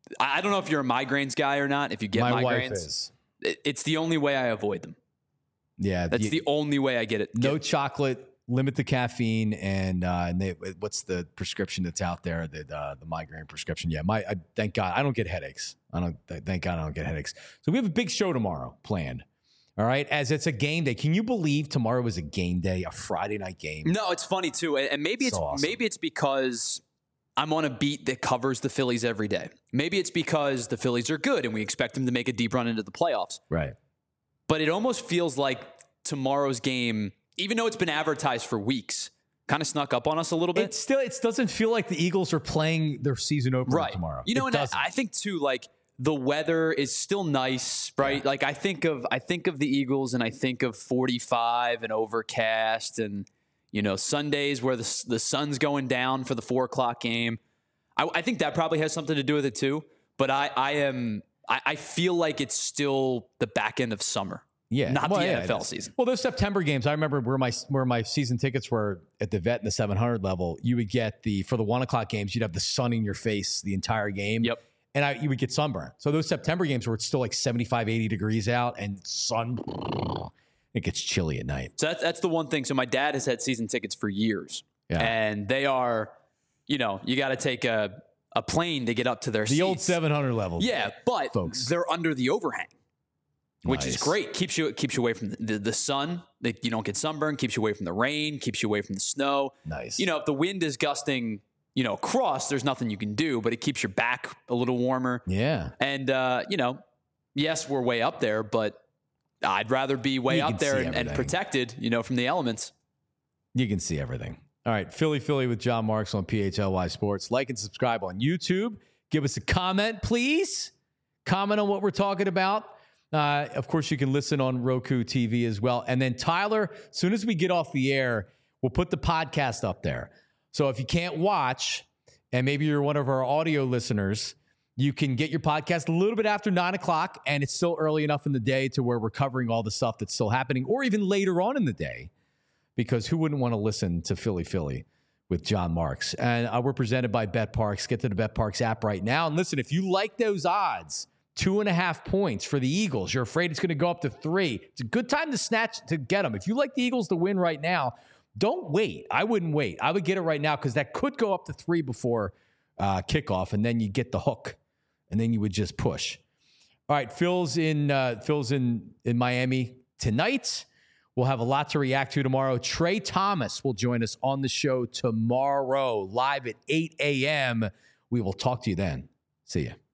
I don't know if you're a migraines guy or not. If you get my migraines. wife is. It, it's the only way I avoid them. Yeah. That's the, the only way I get it. No get. chocolate, limit the caffeine, and uh, and they, what's the prescription that's out there? The uh, the migraine prescription. Yeah. My I, thank God I don't get headaches. I don't. Thank God I don't get headaches. So we have a big show tomorrow planned. All right, as it's a game day. Can you believe tomorrow is a game day, a Friday night game? No, it's funny too, and maybe it's so awesome. maybe it's because I'm on a beat that covers the Phillies every day. Maybe it's because the Phillies are good and we expect them to make a deep run into the playoffs. Right. But it almost feels like tomorrow's game, even though it's been advertised for weeks, kind of snuck up on us a little bit. It still it doesn't feel like the Eagles are playing their season opener right. tomorrow. You know, it and I, I think too, like. The weather is still nice, right? Yeah. Like I think of I think of the Eagles and I think of forty-five and overcast and, you know, Sundays where the the sun's going down for the four o'clock game. I, I think that probably has something to do with it too. But I, I am I, I feel like it's still the back end of summer. Yeah, not well, the yeah, N F L season. Well, those September games, I remember where my where my season tickets were at the Vet in the seven hundred level. You would get the for the one o'clock games, you'd have the sun in your face the entire game. Yep. And I, you would get sunburn. So those September games where it's still like seventy-five, eighty degrees out and sun, it gets chilly at night. So that's, that's the one thing. So my dad has had season tickets for years. Yeah. And they are, you know, you got to take a, a plane to get up to their the seats. old seven hundred level. Yeah, but folks, they're under the overhang, which nice. is great. Keeps you keeps you away from the, the, the sun. They, you don't get sunburn. Keeps you away from the rain. Keeps you away from the snow. Nice. You know, if the wind is gusting, you know, across, there's nothing you can do, but it keeps your back a little warmer. Yeah. And, uh, you know, yes, we're way up there, but I'd rather be way you up there and, and protected, you know, from the elements. You can see everything. All right. Philly, Philly with John Marks on P H L Y Sports. Like and subscribe on YouTube. Give us a comment, please. Comment on what we're talking about. Uh, of course, you can listen on Roku T V as well. And then, Tyler, as soon as we get off the air, we'll put the podcast up there. So if you can't watch, and maybe you're one of our audio listeners, you can get your podcast a little bit after nine o'clock, and it's still early enough in the day to where we're covering all the stuff that's still happening, or even later on in the day, because who wouldn't want to listen to Philly Philly with John Marks? And uh, we're presented by BetParks. Get to the BetParks app right now. And listen, if you like those odds, two and a half points for the Eagles, you're afraid it's going to go up to three, it's a good time to snatch to get them. If you like the Eagles to win right now, don't wait. I wouldn't wait. I would get it right now because that could go up to three before uh, kickoff, and then you get the hook, and then you would just push. All right, Phil's in uh, Phil's in in Miami tonight. We'll have a lot to react to tomorrow. Trey Thomas will join us on the show tomorrow, live at eight a.m. We will talk to you then. See ya.